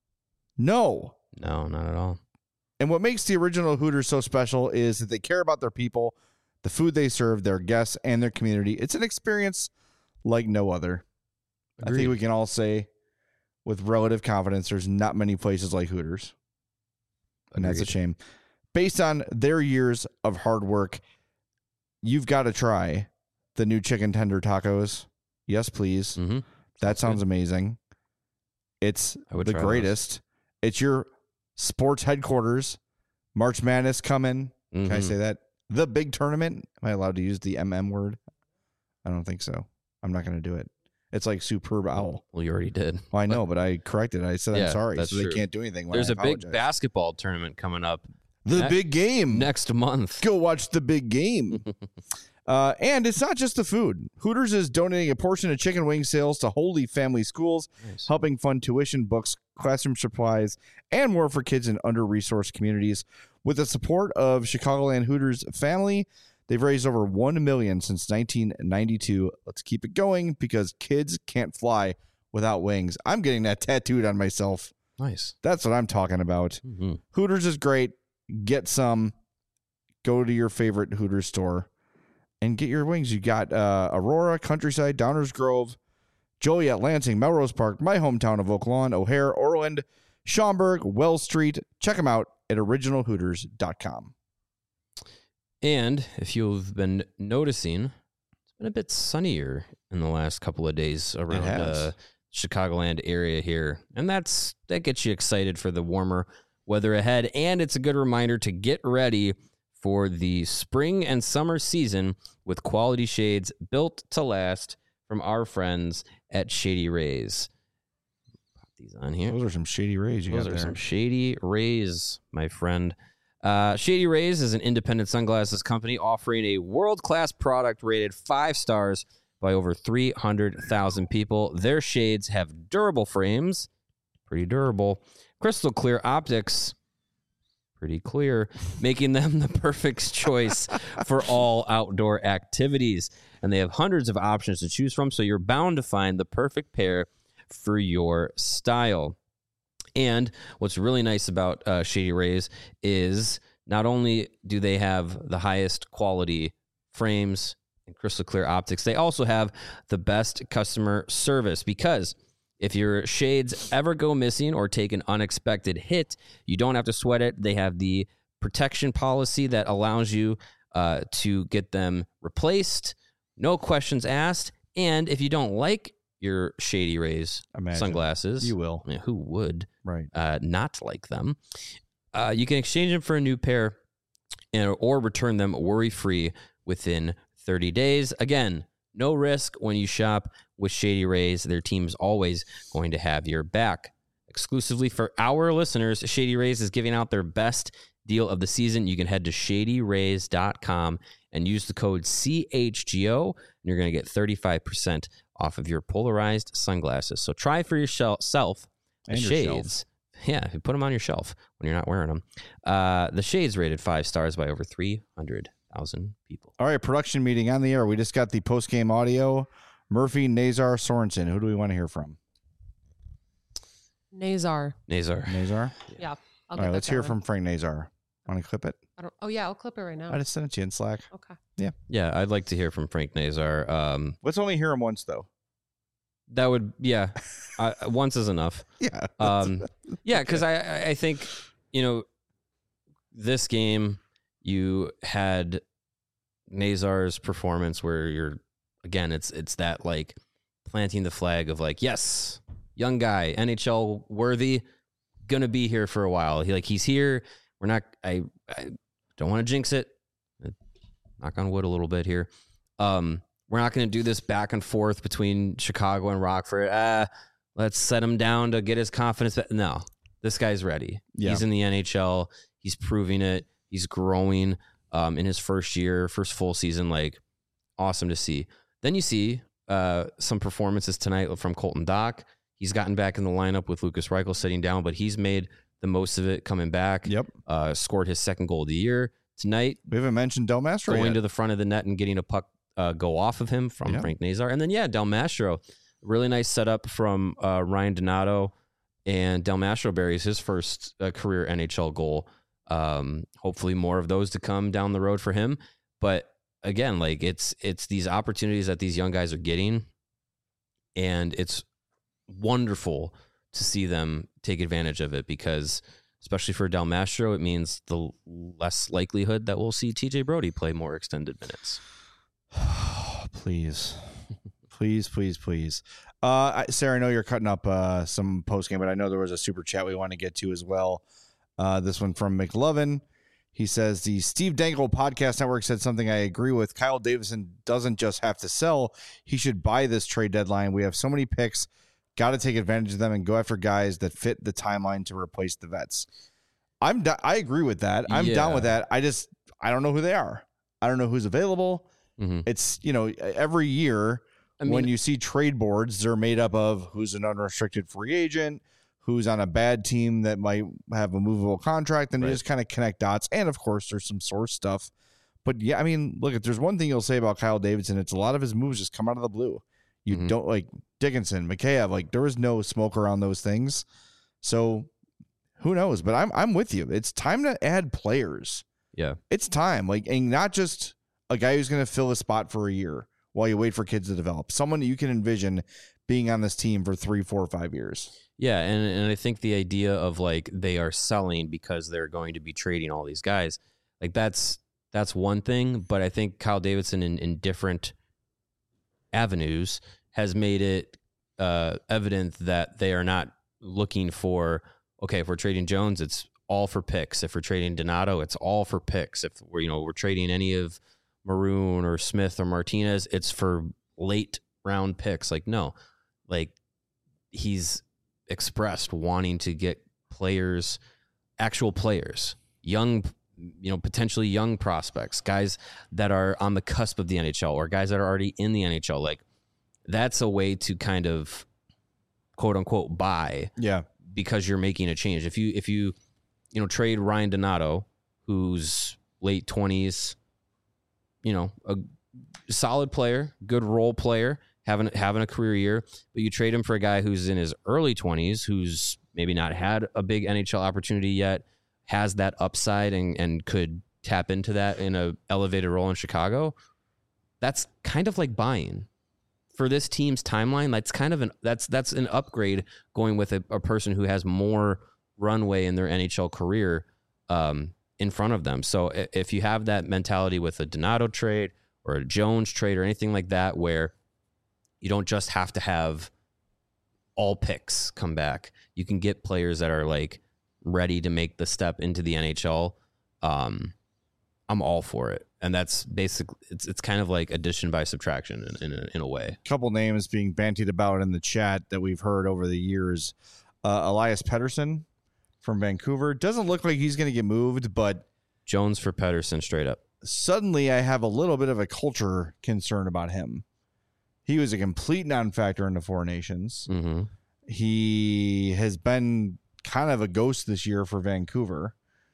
A: No.
B: No, not at all.
A: And what makes the original Hooters so special is that they care about their people, the food they serve, their guests, and their community. It's an experience like no other.
B: Agreed.
A: I think we can all say with relative confidence there's not many places like Hooters. And that's a
B: Agreed.
A: shame. Based on their years of hard work, you've got to try the new chicken tender tacos. Yes, please.
B: Mm-hmm.
A: That sounds amazing. It's
B: I would
A: the
B: try
A: greatest. It's your sports headquarters. March Madness coming. Can I
B: Mhm.
A: say that? The big tournament. Am I allowed to use the MM word? I don't think so. I'm not going to do it. It's like superb owl.
B: Well, you already did.
A: Well, I know, but I corrected it. I said
B: Yeah,
A: I'm sorry,
B: that's
A: so they
B: true.
A: can't do anything. When
B: There's
A: I
B: a big
A: apologize.
B: basketball tournament coming up
A: The
B: ne-
A: big game.
B: next month.
A: Go watch the big game. And it's not just the food. Hooters is donating a portion of chicken wing sales to Holy Family Schools,
B: Nice.
A: helping fund tuition, books, classroom supplies, and more for kids in under-resourced communities. With the support of Chicagoland Hooters family, they've raised over $1 million since 1992. Let's keep it going because kids can't fly without wings. I'm getting that tattooed on myself.
B: Nice.
A: That's what I'm talking about.
B: Mm-hmm.
A: Hooters is great. Get some. Go to your favorite Hooters store and get your wings. You got Aurora, Countryside, Downers Grove, Joliet, Lansing, Melrose Park, my hometown of Oak Lawn, O'Hare, Orland, Schaumburg, Wells Street. Check them out at originalhooters.com.
B: And if you've been noticing, it's been a bit sunnier in the last couple of days around
A: has.
B: Chicagoland area here. And that gets you excited for the warmer weather ahead. And it's a good reminder to get ready for the spring and summer season with quality shades built to last from our friends at Shady Rays. Pop these on here.
A: Those are some shady rays you
B: Those
A: got
B: are
A: there.
B: some Shady Rays, my friend. Shady Rays is an independent sunglasses company offering a world-class product rated 5 stars by over 300,000 people. Their shades have durable frames, pretty durable, crystal clear optics, pretty clear, making them the perfect choice for all outdoor activities. And they have hundreds of options to choose from, so you're bound to find the perfect pair for your style. And what's really nice about Shady Rays is not only do they have the highest quality frames and crystal clear optics, they also have the best customer service, because if your shades ever go missing or take an unexpected hit, you don't have to sweat it. They have the protection policy that allows you to get them replaced, no questions asked. And if you don't like your Shady Rays
A: Imagine.
B: sunglasses,
A: You will.
B: I mean, who would
A: Right.
B: not like them? You can exchange them for a new pair or return them worry-free within 30 days. Again, no risk when you shop with Shady Rays. Their team is always going to have your back. Exclusively for our listeners, Shady Rays is giving out their best deal of the season. You can head to shadyrays.com and use the code CHGO, and you're going to get 35% off of your polarized sunglasses. So try for yourself the
A: And your
B: shades. Yeah, you put them on your shelf when you're not wearing them. The shades rated 5 stars by over 300,000 people.
A: All right, production meeting on the air. We just got the post-game audio. Murphy, Nazar, Sorensen. Who do we want to hear from?
C: Nazar.
B: Nazar.
A: Nazar?
C: Yeah.
A: All
C: I'll
A: right,
C: get
A: let's
C: that
A: hear
C: going.
A: from Frank Nazar. Want to clip it?
C: Oh, yeah. I'll clip it right now.
A: I just sent it to you in Slack.
C: Okay.
B: Yeah, I'd like to hear from Frank Nazar.
A: Let's only hear him once, though.
B: That would, yeah, once is enough.
A: Yeah.
B: Yeah, because I think, this game, you had Nazar's performance where it's that like planting the flag of like, yes, young guy, NHL worthy, gonna be here for a while. He's here. We're not, I don't want to jinx it. Knock on wood a little bit here. We're not going to do this back and forth between Chicago and Rockford. Let's set him down to get his confidence back. No, this guy's ready.
A: Yeah.
B: He's in the NHL. He's proving it. He's growing in his first full season. Like, awesome to see. Then you see some performances tonight from Colton Dock. He's gotten back in the lineup with Lucas Reichel sitting down, but he's made the most of it coming back.
A: Yep.
B: Scored his second goal of the year. Tonight,
A: We haven't mentioned Del Mastro
B: going
A: yet.
B: to the front of the net and getting a puck go off of him from
A: Yeah.
B: Frank Nazar. And then, Del Mastro, Really nice setup from Ryan Donato, and Del Mastroberry's his first career NHL goal. Hopefully more of those to come down the road for him. But again, like it's these opportunities that these young guys are getting, and it's wonderful to see them take advantage of it, because especially for Del Mastro, it means the less likelihood that we'll see TJ Brody play more extended minutes.
A: Please. Please. Sarah, I know you're cutting up some post game, but I know there was a super chat we want to get to as well. This one from McLovin. He says, the Steve Dangle Podcast Network said something I agree with. Kyle Davidson doesn't just have to sell. He should buy this trade deadline. We have so many picks. Got to take advantage of them and go after guys that fit the timeline to replace the vets. I agree with that. I'm down with that. I don't know who they are. I don't know who's available. Mm-hmm. It's, every year when you see trade boards, they're made up of who's an unrestricted free agent, who's on a bad team that might have a movable contract, and you just kind of connect dots. And of course, there's some source stuff. But yeah, look, if there's one thing you'll say about Kyle Davidson, it's a lot of his moves just come out of the blue. You don't like Dickinson, Mikheyev, there was no smoke around those things. So who knows? But I'm with you. It's time to add players.
B: Yeah.
A: It's time. And not just a guy who's going to fill a spot for a year while you wait for kids to develop. Someone you can envision being on this team for 3, 4, 5 years.
B: Yeah, and I think the idea of they are selling because they're going to be trading all these guys, that's one thing. But I think Kyle Davidson in different avenues has made it evident that they are not looking for, okay, if we're trading Jones, it's all for picks. If we're trading Donato, it's all for picks. If we're trading any of Maroon or Smith or Martinez, it's for late round picks. No, he's expressed wanting to get players, actual players, young, potentially young prospects, guys that are on the cusp of the NHL or guys that are already in the NHL. That's a way to kind of quote unquote buy.
A: Yeah.
B: Because you're making a change. If you trade Ryan Donato, who's late 20s, a solid player, good role player, having a career year, but you trade him for a guy who's in his early 20s, who's maybe not had a big NHL opportunity yet, has that upside and could tap into that in a elevated role in Chicago. That's kind of like buying. For this team's timeline, that's kind of that's an upgrade going with a person who has more runway in their NHL career in front of them. So if you have that mentality with a Donato trade or a Jones trade or anything like that, where you don't just have to have all picks come back, you can get players that are ready to make the step into the NHL. I'm all for it. And that's basically, it's kind of like addition by subtraction in a way.
A: A couple names being bantied about in the chat that we've heard over the years. Elias Pettersson from Vancouver. Doesn't look like he's going to get moved, but
B: Jones for Pettersson straight up.
A: Suddenly I have a little bit of a culture concern about him. He was a complete non-factor in the Four Nations.
B: Mm-hmm.
A: He has been kind of a ghost this year for Vancouver.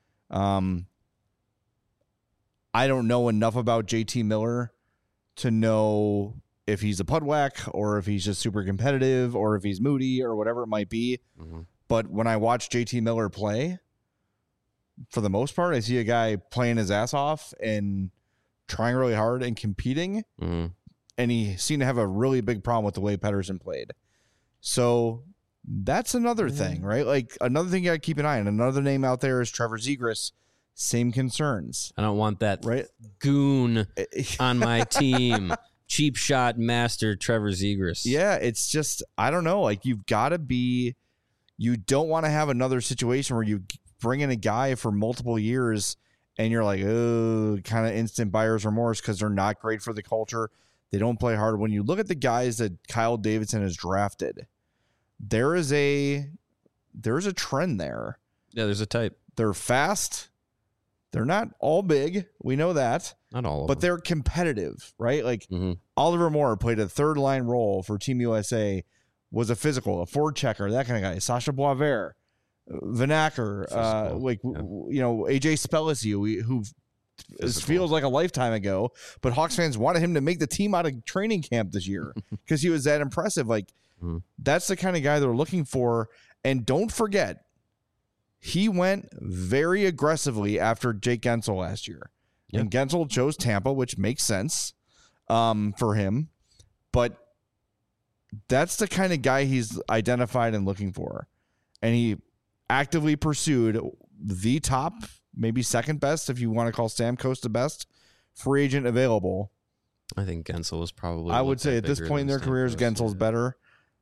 A: I don't know enough about JT Miller to know if he's a pudwack or if he's just super competitive or if he's moody or whatever it might be. Mm-hmm. But when I watch JT Miller play, for the most part, I see a guy playing his ass off and trying really hard and competing.
B: Mm-hmm.
A: And he seemed to have a really big problem with the way Pettersson played. So that's another thing, right? Another thing you got to keep an eye on. Another name out there is Trevor Zegras. Same concerns.
B: I don't want that goon on my team. Cheap shot master Trevor Zegras.
A: Yeah, it's just, I don't know. You've got to be, you don't want to have another situation where you bring in a guy for multiple years and you're kind of instant buyer's remorse because they're not great for the culture. They don't play hard. When you look at the guys that Kyle Davidson has drafted, there is a trend there.
B: Yeah, there's a type.
A: They're fast. They're not all big. We know that.
B: Not all of
A: but
B: them.
A: They're competitive, right? Oliver Moore played a third line role for Team USA, was a physical, a forward checker, that kind of guy. Sasha Boisvert, Vanacker, AJ Spellici, who feels like a lifetime ago. But Hawks fans wanted him to make the team out of training camp this year because he was that impressive. Like, that's the kind of guy they're looking for. And don't forget, he went very aggressively after Jake Gensel last year. Yep. And Gensel chose Tampa, which makes sense for him. But that's the kind of guy he's identified and looking for. And he actively pursued the top, maybe second best, if you want to call Stamkos the best, free agent available.
B: I think Gensel is probably.
A: I would say at this point in their careers, Gensel's better.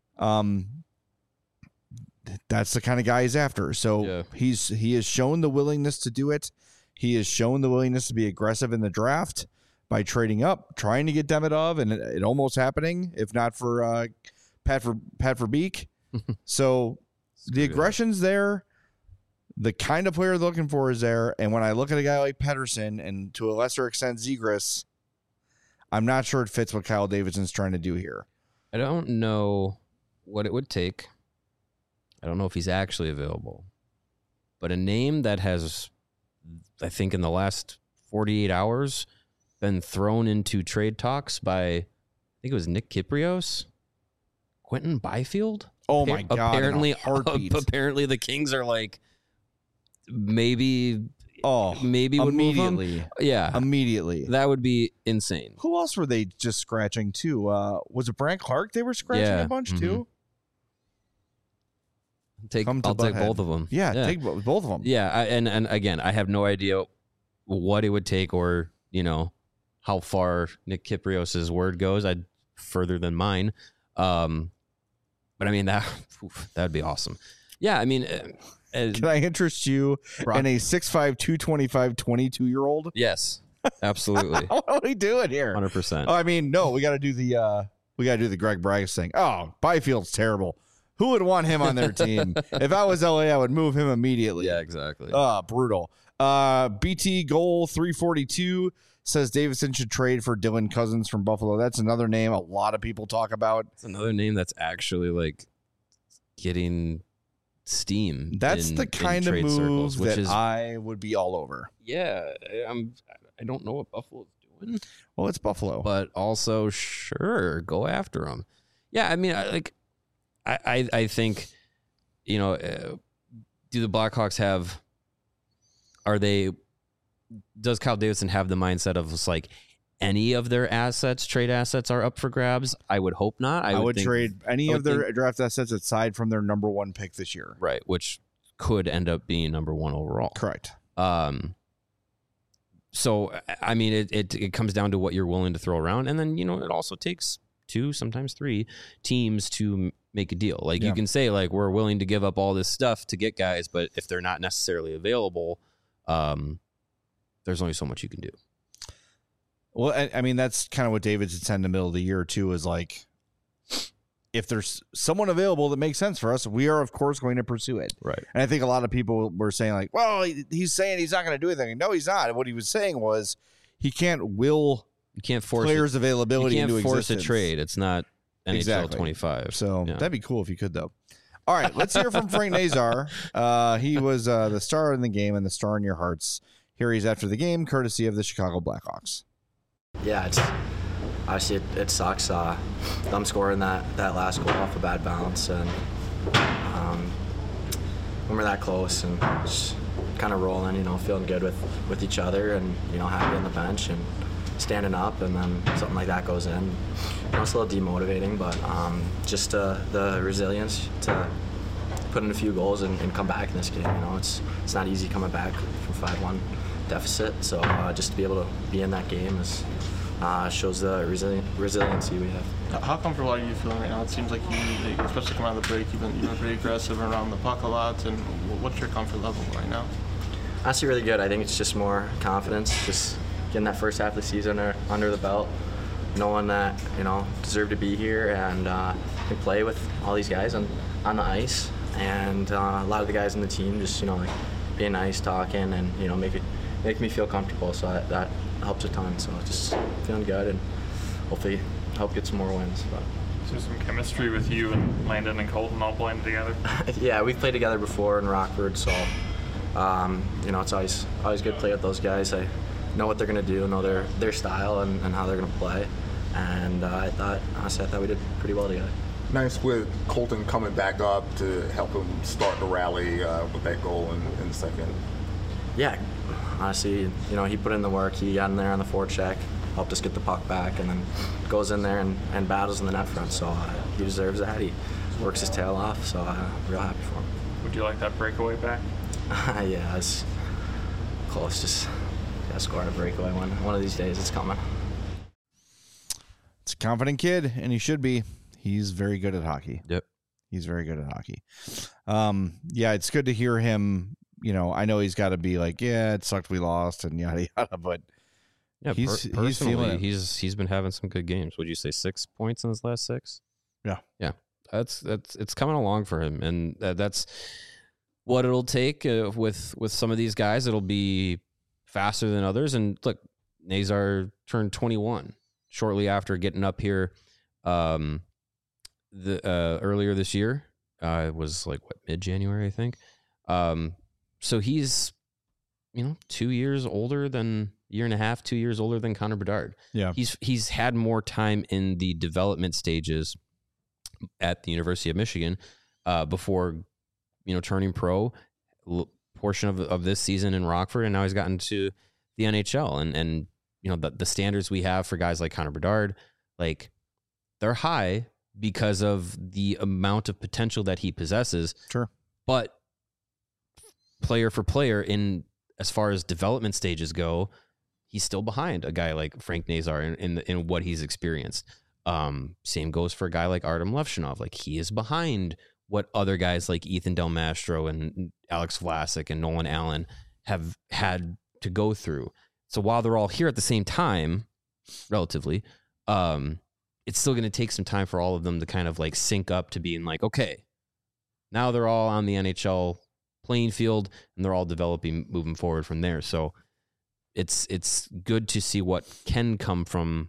A: That's the kind of guy he's after. So he has shown the willingness to do it. He has shown the willingness to be aggressive in the draft by trading up, trying to get Demidov, and it almost happening, if not for Pat Verbeek. So the aggression's there. The kind of player they're looking for is there. And when I look at a guy like Pettersson and to a lesser extent Zegras, I'm not sure it fits what Kyle Davidson's trying to do here.
B: I don't know what it would take. I don't know if he's actually available. But a name that has, I think in the last 48 hours, been thrown into trade talks by, I think it was Nick Kyprios, Quentin Byfield.
A: Oh my God!
B: Apparently,
A: apparently
B: the Kings are like maybe would
A: immediately.
B: Move him. Yeah,
A: immediately.
B: That would be insane.
A: Who else were they just scratching too? Was it Brant Clark? They were scratching a bunch too.
B: I'll take both of them.
A: Yeah, take both of them.
B: Yeah, and again, I have no idea what it would take, or how far Nick Kyprios' word goes. I'd further than mine. But I mean that'd be awesome. Yeah, I mean,
A: can I interest you in a 6'5", 225, 22-year-old?
B: Yes, absolutely.
A: What are we doing here?
B: 100%.
A: Oh, I mean, no, we got to do the Greg Braggs thing. Oh, Byfield's terrible. Who would want him on their team? If I was LA, I would move him immediately.
B: Yeah, exactly.
A: Brutal. BT Goal 342 says Davidson should trade for Dylan Cousins from Buffalo. That's another name a lot of people talk about.
B: It's another name that's actually like getting steam.
A: That's the kind of move that I would be all over.
B: Yeah, I don't know what Buffalo's doing.
A: Well, it's Buffalo,
B: but also sure, go after them. Yeah, I mean, I think, do the Blackhawks have? Does Kyle Davidson have the mindset of just like any of their trade assets are up for grabs? I would hope not. I would
A: trade any of their draft assets aside from their number one pick this year.
B: Right, which could end up being number one overall.
A: Correct.
B: So, I mean, it comes down to what you're willing to throw around. And then, it also takes 2, sometimes 3 teams to make a deal. Like you can say like, we're willing to give up all this stuff to get guys, but if they're not necessarily available, there's only so much you can do.
A: Well, I mean, that's kind of what Davidson said in the middle of the year too, is like, if there's someone available that makes sense for us, we are of course going to pursue it.
B: Right.
A: And I think a lot of people were saying like, well, he's saying he's not going to do anything. No, he's not. What he was saying was he can't force players' availability into existence.
B: You can't force a trade. It's not NHL 25.
A: So that'd be cool if you could, though. All right, let's hear from Frank Nazar. He was the star in the game and the star in your hearts. Here he's after the game, courtesy of the Chicago Blackhawks.
C: Yeah, obviously it sucks. Them scoring that last goal off a bad bounce, and when we're that close and just kind of rolling, feeling good with each other, and happy on the bench and standing up, and then something like that goes in. It's a little demotivating, but just the resilience to put in a few goals and come back in this game. It's not easy coming back from 5-1 deficit, so just to be able to be in that game shows the resiliency we have.
D: How comfortable are you feeling right now? It seems like you, especially coming out of the break, you've been pretty aggressive around the puck a lot. And what's your comfort level right now?
C: Honestly, really good. I think it's just more confidence, just getting that first half of the season under the belt, knowing that deserve to be here and can play with all these guys on the ice, and a lot of the guys on the team just being nice, talking, and make me feel comfortable. So that helps a ton. So just feeling good, and hopefully help get some more wins. But.
E: Is there some chemistry with you and Landon and Colton all playing together?
C: Yeah, we've played together before in Rockford, so it's always good to play with those guys. I know what they're going to do, know their style and how they're going to play. And honestly, I thought we did pretty well together.
F: Nice with Colton coming back up to help him start the rally with that goal in the second.
C: Yeah, honestly, he put in the work. He got in there on the forecheck, helped us get the puck back, and then goes in there and battles in the net front. So he deserves that. He works his tail off, so I'm real happy for him.
E: Would you like that breakaway back?
C: Yeah, it's close. Just got to score on a breakaway one of these days. It's coming.
A: It's a confident kid, and he should be. He's very good at hockey.
B: Yep.
A: He's very good at hockey. Yeah, it's good to hear him. I know he's got to be like, yeah, it sucked we lost and yada yada, but
B: yeah,
A: he's feeling it.
B: He's been having some good games. Would you say 6 points in his last 6? Yeah. That's it's coming along for him, and that's what it'll take with some of these guys. It'll be faster than others. And look, Nazar turned 21 shortly after getting up here. Earlier this year, it was like mid-January, I think. So he's 2 years older than year and a half, 2 years older than Connor Bedard.
A: Yeah,
B: he's had more time in the development stages at the University of Michigan before turning pro. Portion of this season in Rockford, and now he's gotten to the NHL, and the standards we have for guys like Connor Bedard, like they're high because of the amount of potential that he possesses.
A: Sure.
B: But player for player, in as far as development stages go, he's still behind a guy like Frank Nazar in what he's experienced. Same goes for a guy like Artem Levshinov. Like, he is behind what other guys like Ethan Del Mastro and Alex Vlasic and Nolan Allen have had to go through. So while they're all here at the same time, relatively, it's still going to take some time for all of them to kind of like sync up to being like, okay, now they're all on the NHL playing field and they're all developing, moving forward from there. So it's good to see what can come from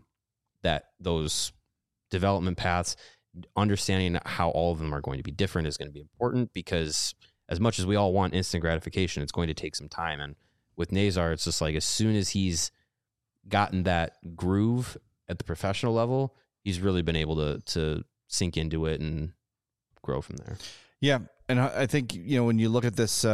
B: those development paths. Understanding how all of them are going to be different is going to be important, because as much as we all want instant gratification, it's going to take some time. And with Nazar, it's just like, as soon as he's gotten that groove at the professional level, he's really been able to sink into it and grow from there.
A: Yeah. And I think, when you look at this,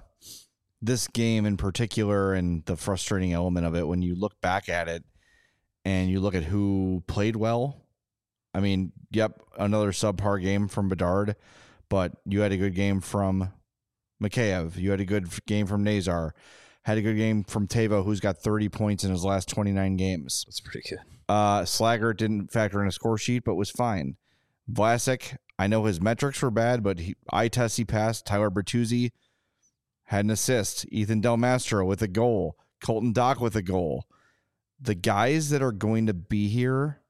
A: this game in particular and the frustrating element of it, when you look back at it and you look at who played well, I mean, yep, another subpar game from Bedard, but you had a good game from Mikheyev. You had a good game from Nazar. Had a good game from Teuvo, who's got 30 points in his last 29 games.
B: That's pretty good.
A: Slaggert didn't factor in a score sheet, but was fine. Vlasic, I know his metrics were bad, but eye test he passed. Tyler Bertuzzi had an assist. Ethan Del Mastro with a goal. Colton Dach with a goal. The guys that are going to be here,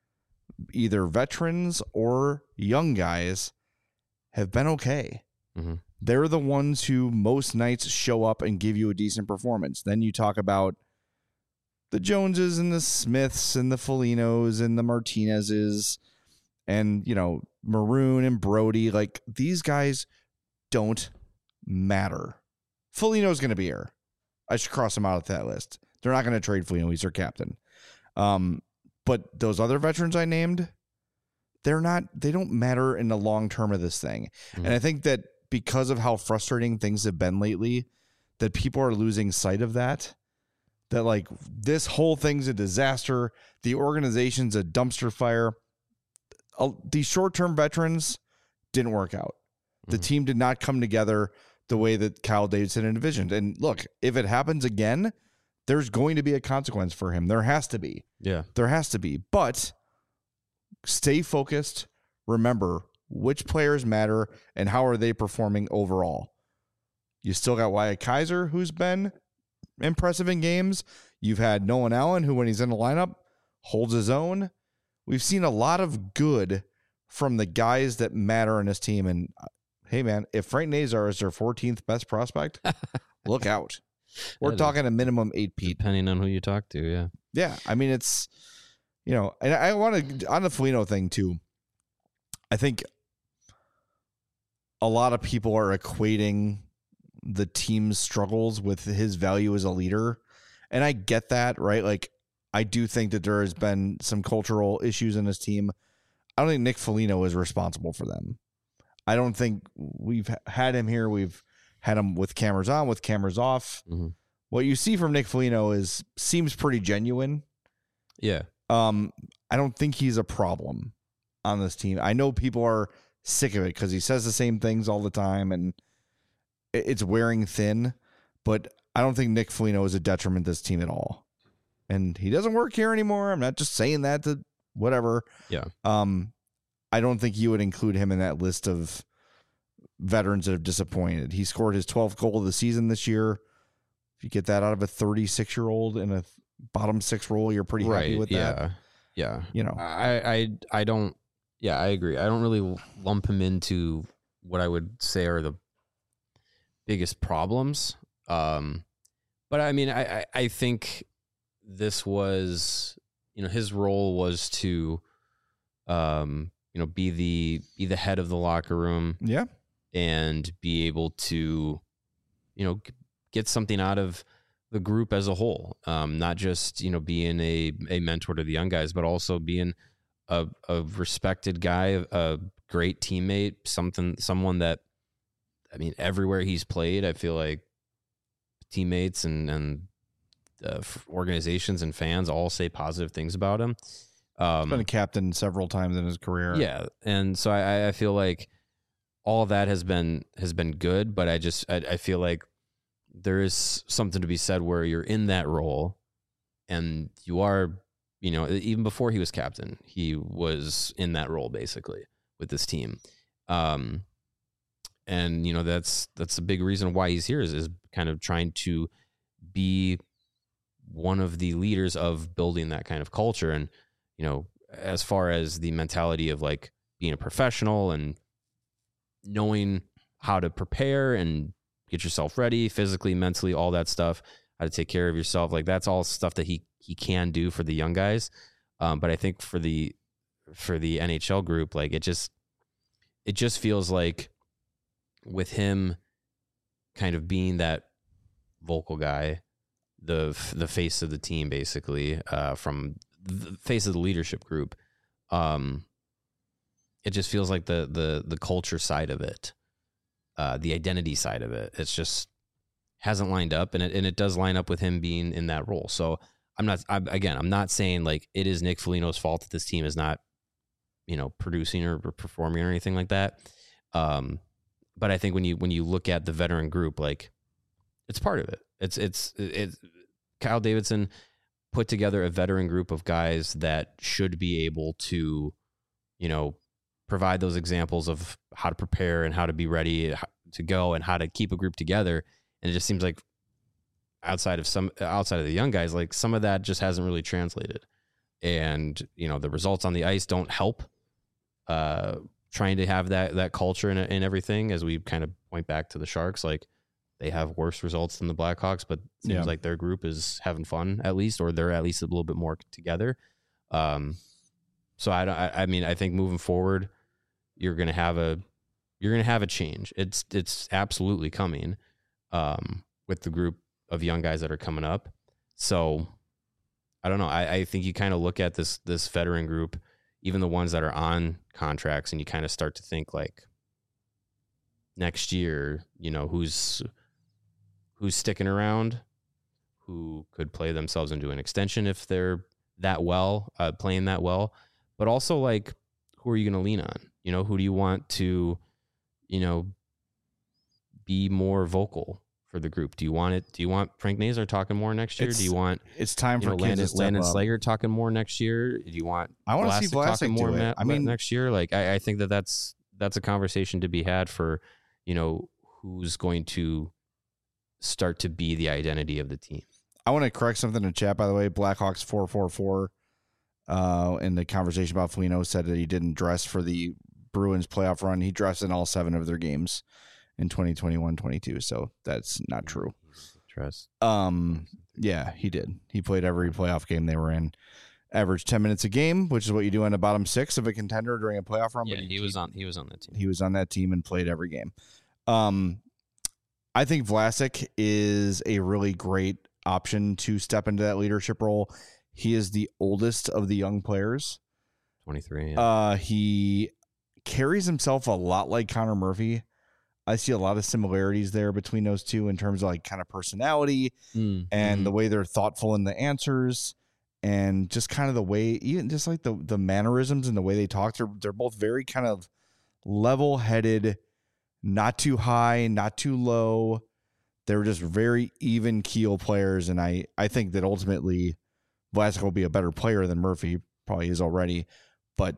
A: either veterans or young guys, have been okay.
B: Mm-hmm.
A: They're the ones who most nights show up and give you a decent performance. Then you talk about the Joneses and the Smiths and the Folignos and the Martinezes and, Maroon and Brody. Like, these guys don't matter. Foligno's going to be here. I should cross him out of that list. They're not going to trade Foligno. He's their captain. But those other veterans I named, they don't matter in the long term of this thing. Mm-hmm. And I think that because of how frustrating things have been lately, that people are losing sight of that like this whole thing's a disaster. The organization's a dumpster fire. These short-term veterans didn't work out. The team did not come together the way that Kyle Davidson envisioned. And look, if it happens again, there's going to be a consequence for him. There has to be.
B: Yeah.
A: There has to be. But stay focused. Remember which players matter and how are they performing overall. You still got Wyatt Kaiser, who's been impressive in games. You've had Nolan Allen, who when he's in the lineup holds his own. We've seen a lot of good from the guys that matter in this team. And hey, man, if Frank Nazar is their 14th best prospect, look out. We're talking a minimum 8 Pete.
B: Depending on who you talk to, yeah.
A: Yeah, I mean, it's, and I want to, on the Foligno thing too, I think a lot of people are equating the team's struggles with his value as a leader. And I get that, right? Like, I do think that there has been some cultural issues in his team. I don't think Nick Foligno is responsible for them. I don't think we've had him here. We've had him with cameras on, with cameras off.
B: Mm-hmm.
A: What you see from Nick Foligno seems pretty genuine.
B: Yeah.
A: I don't think he's a problem on this team. I know people are sick of it because he says the same things all the time and it's wearing thin, but I don't think Nick Foligno is a detriment to this team at all. And he doesn't work here anymore. I'm not just saying that to whatever.
B: Yeah.
A: I don't think you would include him in that list of veterans that have disappointed. He scored his 12th goal of the season this year. If you get that out of a 36-year-old in a bottom six role, you're pretty happy with that.
B: Yeah.
A: You know,
B: I don't. Yeah, I agree. I don't really lump him into what I would say are the biggest problems. But I mean, I think this was, his role was to, be the head of the locker room.
A: Yeah.
B: And be able to, get something out of the group as a whole. Not just, being a mentor to the young guys, but also being a respected guy, a great teammate, someone that, I mean, everywhere he's played, I feel like teammates and organizations and fans all say positive things about him.
A: He's been a captain several times in his career.
B: Yeah. And so I feel like all of that has been good, but I feel like there is something to be said where you're in that role and you are, even before he was captain, he was in that role basically with this team. And that's a big reason why he's here is kind of trying to be one of the leaders of building that kind of culture. And, as far as the mentality of like being a professional and knowing how to prepare and get yourself ready physically, mentally, all that stuff, how to take care of yourself. Like that's all stuff that he can do for the young guys. But I think for the NHL group, like it just feels like with him kind of being that vocal guy, the face of the team, basically, from the face of the leadership group, it just feels like the culture side of it, the identity side of it, it's just hasn't lined up, and it does line up with him being in that role. So I'm not saying like it is Nick Foligno's fault that this team is not, producing or performing or anything like that. But I think when you look at the veteran group, like it's part of it. It's Kyle Davidson put together a veteran group of guys that should be able to, provide those examples of how to prepare and how to be ready to go and how to keep a group together. And it just seems like outside of the young guys, like some of that just hasn't really translated. And, the results on the ice don't help trying to have that culture and everything, as we kind of point back to the Sharks. Like they have worse results than the Blackhawks, but it seems like their group is having fun at least, or they're at least a little bit more together. So I think moving forward, you're going to have a change. It's absolutely coming with the group of young guys that are coming up. So I don't know. I think you kind of look at this veteran group, even the ones that are on contracts, and you kind of start to think like next year, who's sticking around, who could play themselves into an extension if they're playing that well, but also like, who are you going to lean on? Who do you want to, be more vocal for the group? Do you want Frank Nazar talking more next year? Do you want
A: it's time for
B: Landon Slager talking more next year? Do you want
A: I want to see Vlasic
B: talking more
A: do it.
B: next year? Like I think that's a conversation to be had for, who's going to start to be the identity of the team.
A: I want to correct something in chat, by the way. Blackhawks 444 in the conversation about Foligno said that he didn't dress for the Bruins playoff run. He dressed in all 7 of their games in 2021-22, so that's not true.
B: Dress.
A: Yeah, he did. He played every playoff game they were in. Averaged 10 minutes a game, which is what you do in the bottom 6 of a contender during a playoff run.
B: Yeah, he was on that team.
A: He was on that team and played every game. I think Vlasic is a really great option to step into that leadership role. He is the oldest of the young players.
B: 23. Yeah.
A: He carries himself a lot like Connor Murphy. I see a lot of similarities there between those two in terms of like kind of personality and the way they're thoughtful in the answers and just kind of the way, even just like the mannerisms and the way they talk. They're both very kind of level-headed, not too high, not too low. They're just very even keel players. And I think that ultimately Vlasic will be a better player than Murphy, probably is already. But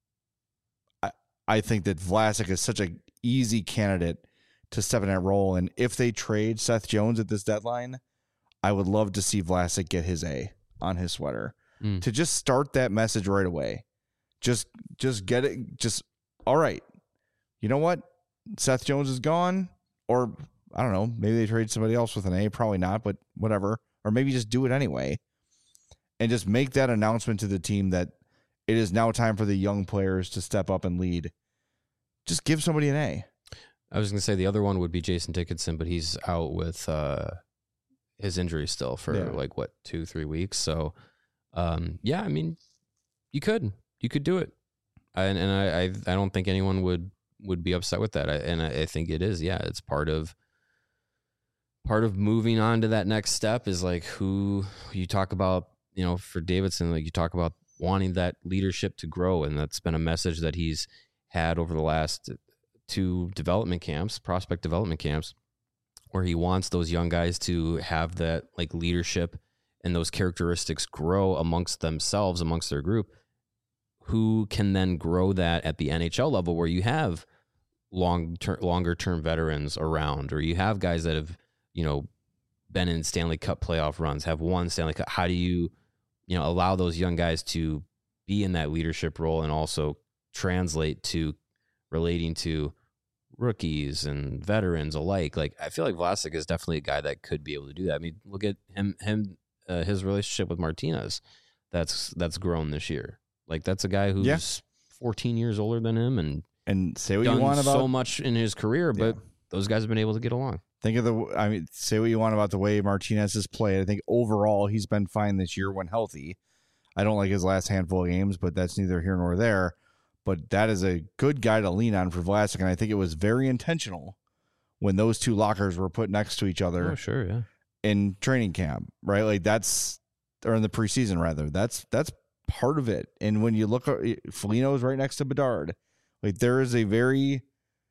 A: I think that Vlasic is such an easy candidate to step in that role. And if they trade Seth Jones at this deadline, I would love to see Vlasic get his A on his sweater to just start that message right away. Just get it. Just, all right. You know what? Seth Jones is gone, or I don't know, maybe they trade somebody else with an A, probably not, but whatever. Or maybe just do it anyway and just make that announcement to the team that it is now time for the young players to step up and lead. Just give somebody an A.
B: I was going to say the other one would be Jason Dickinson, but he's out with his injury still for 2-3 weeks. So, I mean, you could do it. I don't think anyone would be upset with that. I think it is. Yeah. It's part of moving on to that next step is like who you talk about, for Davidson, like you talk about wanting that leadership to grow. And that's been a message that he's had over the last 2 prospect development camps, where he wants those young guys to have that like leadership and those characteristics grow amongst themselves, amongst their group, who can then grow that at the NHL level where you have longer term veterans around, or you have guys that have, been in Stanley Cup playoff runs, have won Stanley Cup. How do you allow those young guys to be in that leadership role and also translate to relating to rookies and veterans alike? Like, I feel like Vlasic is definitely a guy that could be able to do that. I mean, look at his relationship with Martinez. That's grown this year. Like, that's a guy who's 14 years older than him and
A: say what you want about
B: so much in his career, but those guys have been able to get along.
A: Say what you want about the way Martinez has played. I think overall he's been fine this year when healthy. I don't like his last handful of games, but that's neither here nor there. But that is a good guy to lean on for Vlasic, and I think it was very intentional when those 2 lockers were put next to each other.
B: Oh, sure, yeah.
A: In training camp, right? Like or in the preseason rather. That's part of it. And when you look at Foligno's right next to Bedard, like there is a very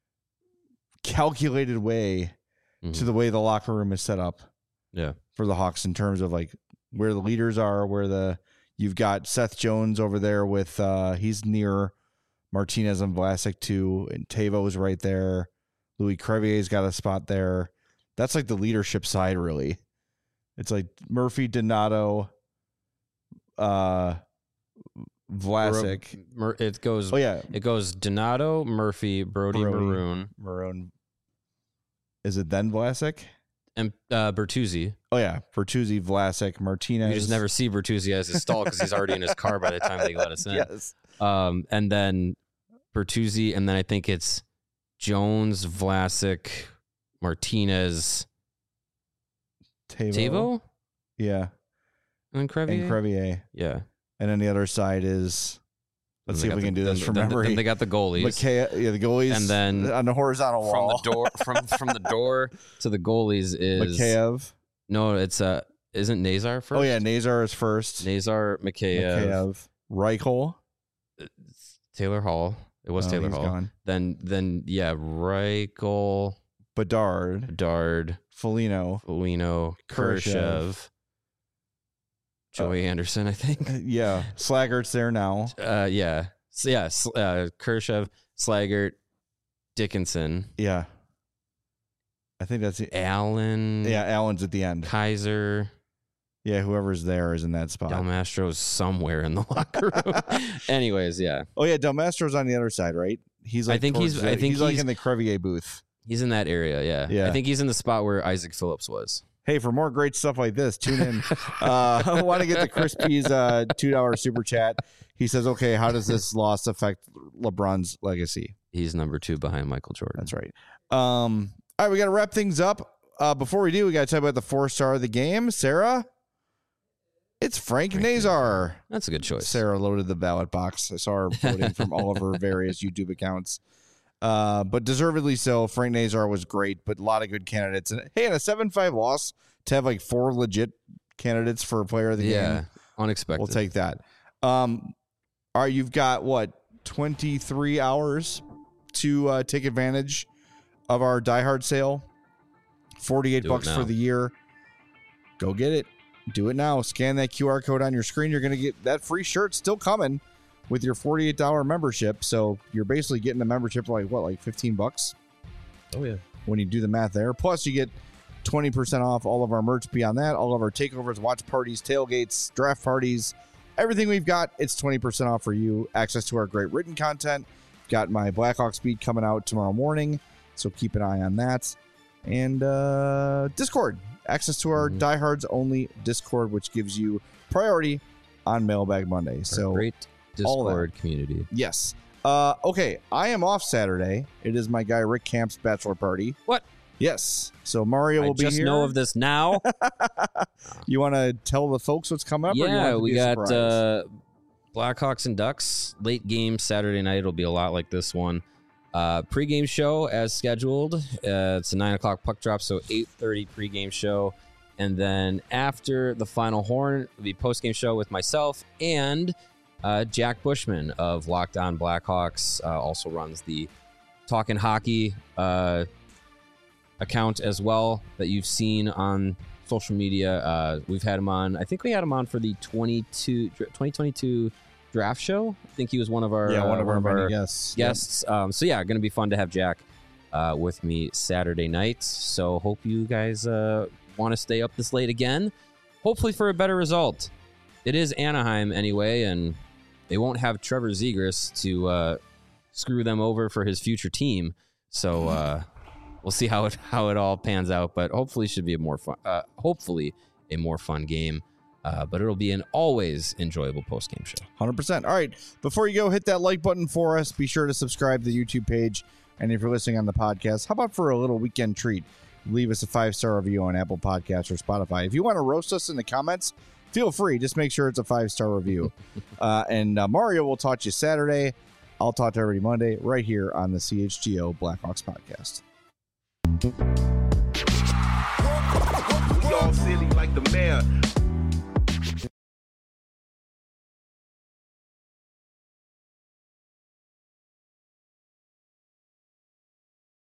A: calculated way to the way the locker room is set up.
B: Yeah.
A: For the Hawks in terms of like where the leaders are, you've got Seth Jones over there with he's near Martinez and Vlasic too, and Tavo's right there. Louis Crevier's got a spot there. That's like the leadership side, really. It's like Murphy, Donato, Vlasic.
B: It goes Donato, Murphy, Brody,
A: Maroon. Is it then Vlasic?
B: And Bertuzzi.
A: Oh, yeah. Bertuzzi, Vlasic, Martinez.
B: You just never see Bertuzzi as his stall because he's already in his car by the time they let us in.
A: Yes.
B: And then Bertuzzi, and then I think it's Jones, Vlasic, Martinez, Tavo?
A: Yeah.
B: And Crevier? Yeah.
A: And then the other side is... Let's see if we can do this from memory.
B: Then they got the goalies.
A: The goalies.
B: And then
A: on the horizontal wall.
B: From the door to the goalies is
A: Mikheyev.
B: No, it's isn't Nazar first?
A: Oh yeah, Nazar is first.
B: Nazar, Mikheyev,
A: Reichel,
B: Taylor Hall. It was Taylor Hall.
A: Gone.
B: Then Reichel,
A: Bedard, Foligno,
B: Khrushchev. Joey Anderson, I think.
A: Yeah. Slaggert's there now.
B: Khrushchev, Slaggert, Dickinson.
A: Yeah. I think that's it.
B: Allen.
A: Yeah, Allen's at the end.
B: Kaiser.
A: Yeah, whoever's there is in that spot.
B: Del Mastro's somewhere in the locker room. Anyways, yeah.
A: Oh yeah, Del Mastro's on the other side, right? He's like he's like in the Crevier booth.
B: He's in that area, yeah. I think he's in the spot where Isaac Phillips was.
A: Hey, for more great stuff like this, tune in. I want to get the Chris P's $2 super chat. He says, okay, how does this loss affect LeBron's legacy?
B: He's number 2 behind Michael Jordan.
A: That's right. All right, we got to wrap things up. before we do, we got to talk about the 4-star of the game. Sarah, it's Frank Nazar.
B: That's a good choice.
A: Sarah loaded the ballot box. I saw her voting from all of her various YouTube accounts. But deservedly so. Frank Nazar was great, but a lot of good candidates. And hey, in a 7-5 loss, to have like 4 legit candidates for player of the game.
B: Yeah, unexpected.
A: We'll take that. All right, you've got, 23 hours to take advantage of our Die Hard sale. $48 for the year. Go get it. Do it now. Scan that QR code on your screen. You're going to get that free shirt still coming with your $48 membership. So you're basically getting a membership like $15?
B: Oh, yeah.
A: When you do the math there. Plus, you get 20% off all of our merch beyond that. All of our takeovers, watch parties, tailgates, draft parties, everything we've got, it's 20% off for you. Access to our great written content. Got my Blackhawks beat coming out tomorrow morning, so keep an eye on that. And Discord. Access to our Diehards only Discord, which gives you priority on Mailbag Monday. So
B: great Discord community.
A: Yes. Okay, I am off Saturday. It is my guy Rick Camp's bachelor party.
B: What?
A: Yes. So Mario will be here.
B: I just know of this now.
A: You want to tell the folks what's coming up?
B: Yeah, we got Blackhawks and Ducks late game Saturday night. It'll be a lot like this one. Pre-game show as scheduled. It's a 9:00 puck drop, so 8:30 pre-game show. And then after the final horn, it'll be post-game show with myself and Jack Bushman of Locked On Blackhawks. Also runs the Talkin' Hockey account as well that you've seen on social media. We've had him on. I think we had him on for the 2022 draft show. I think he was one of our guests. So yeah, going to be fun to have Jack with me Saturday night. So hope you guys want to stay up this late again. Hopefully for a better result. It is Anaheim anyway, and they won't have Trevor Zegras to screw them over for his future team. So we'll see how it all pans out. But hopefully, it should be a more fun game. But it'll be an always enjoyable post-game show.
A: 100%. All right. Before you go, hit that like button for us. Be sure to subscribe to the YouTube page. And if you're listening on the podcast, how about for a little weekend treat? Leave us a 5-star review on Apple Podcasts or Spotify. If you want to roast us in the comments, feel free. Just make sure it's a 5-star review. And Mario will talk to you Saturday. I'll talk to everybody Monday right here on the CHGO Blackhawks podcast.
G: We all silly like the mayor.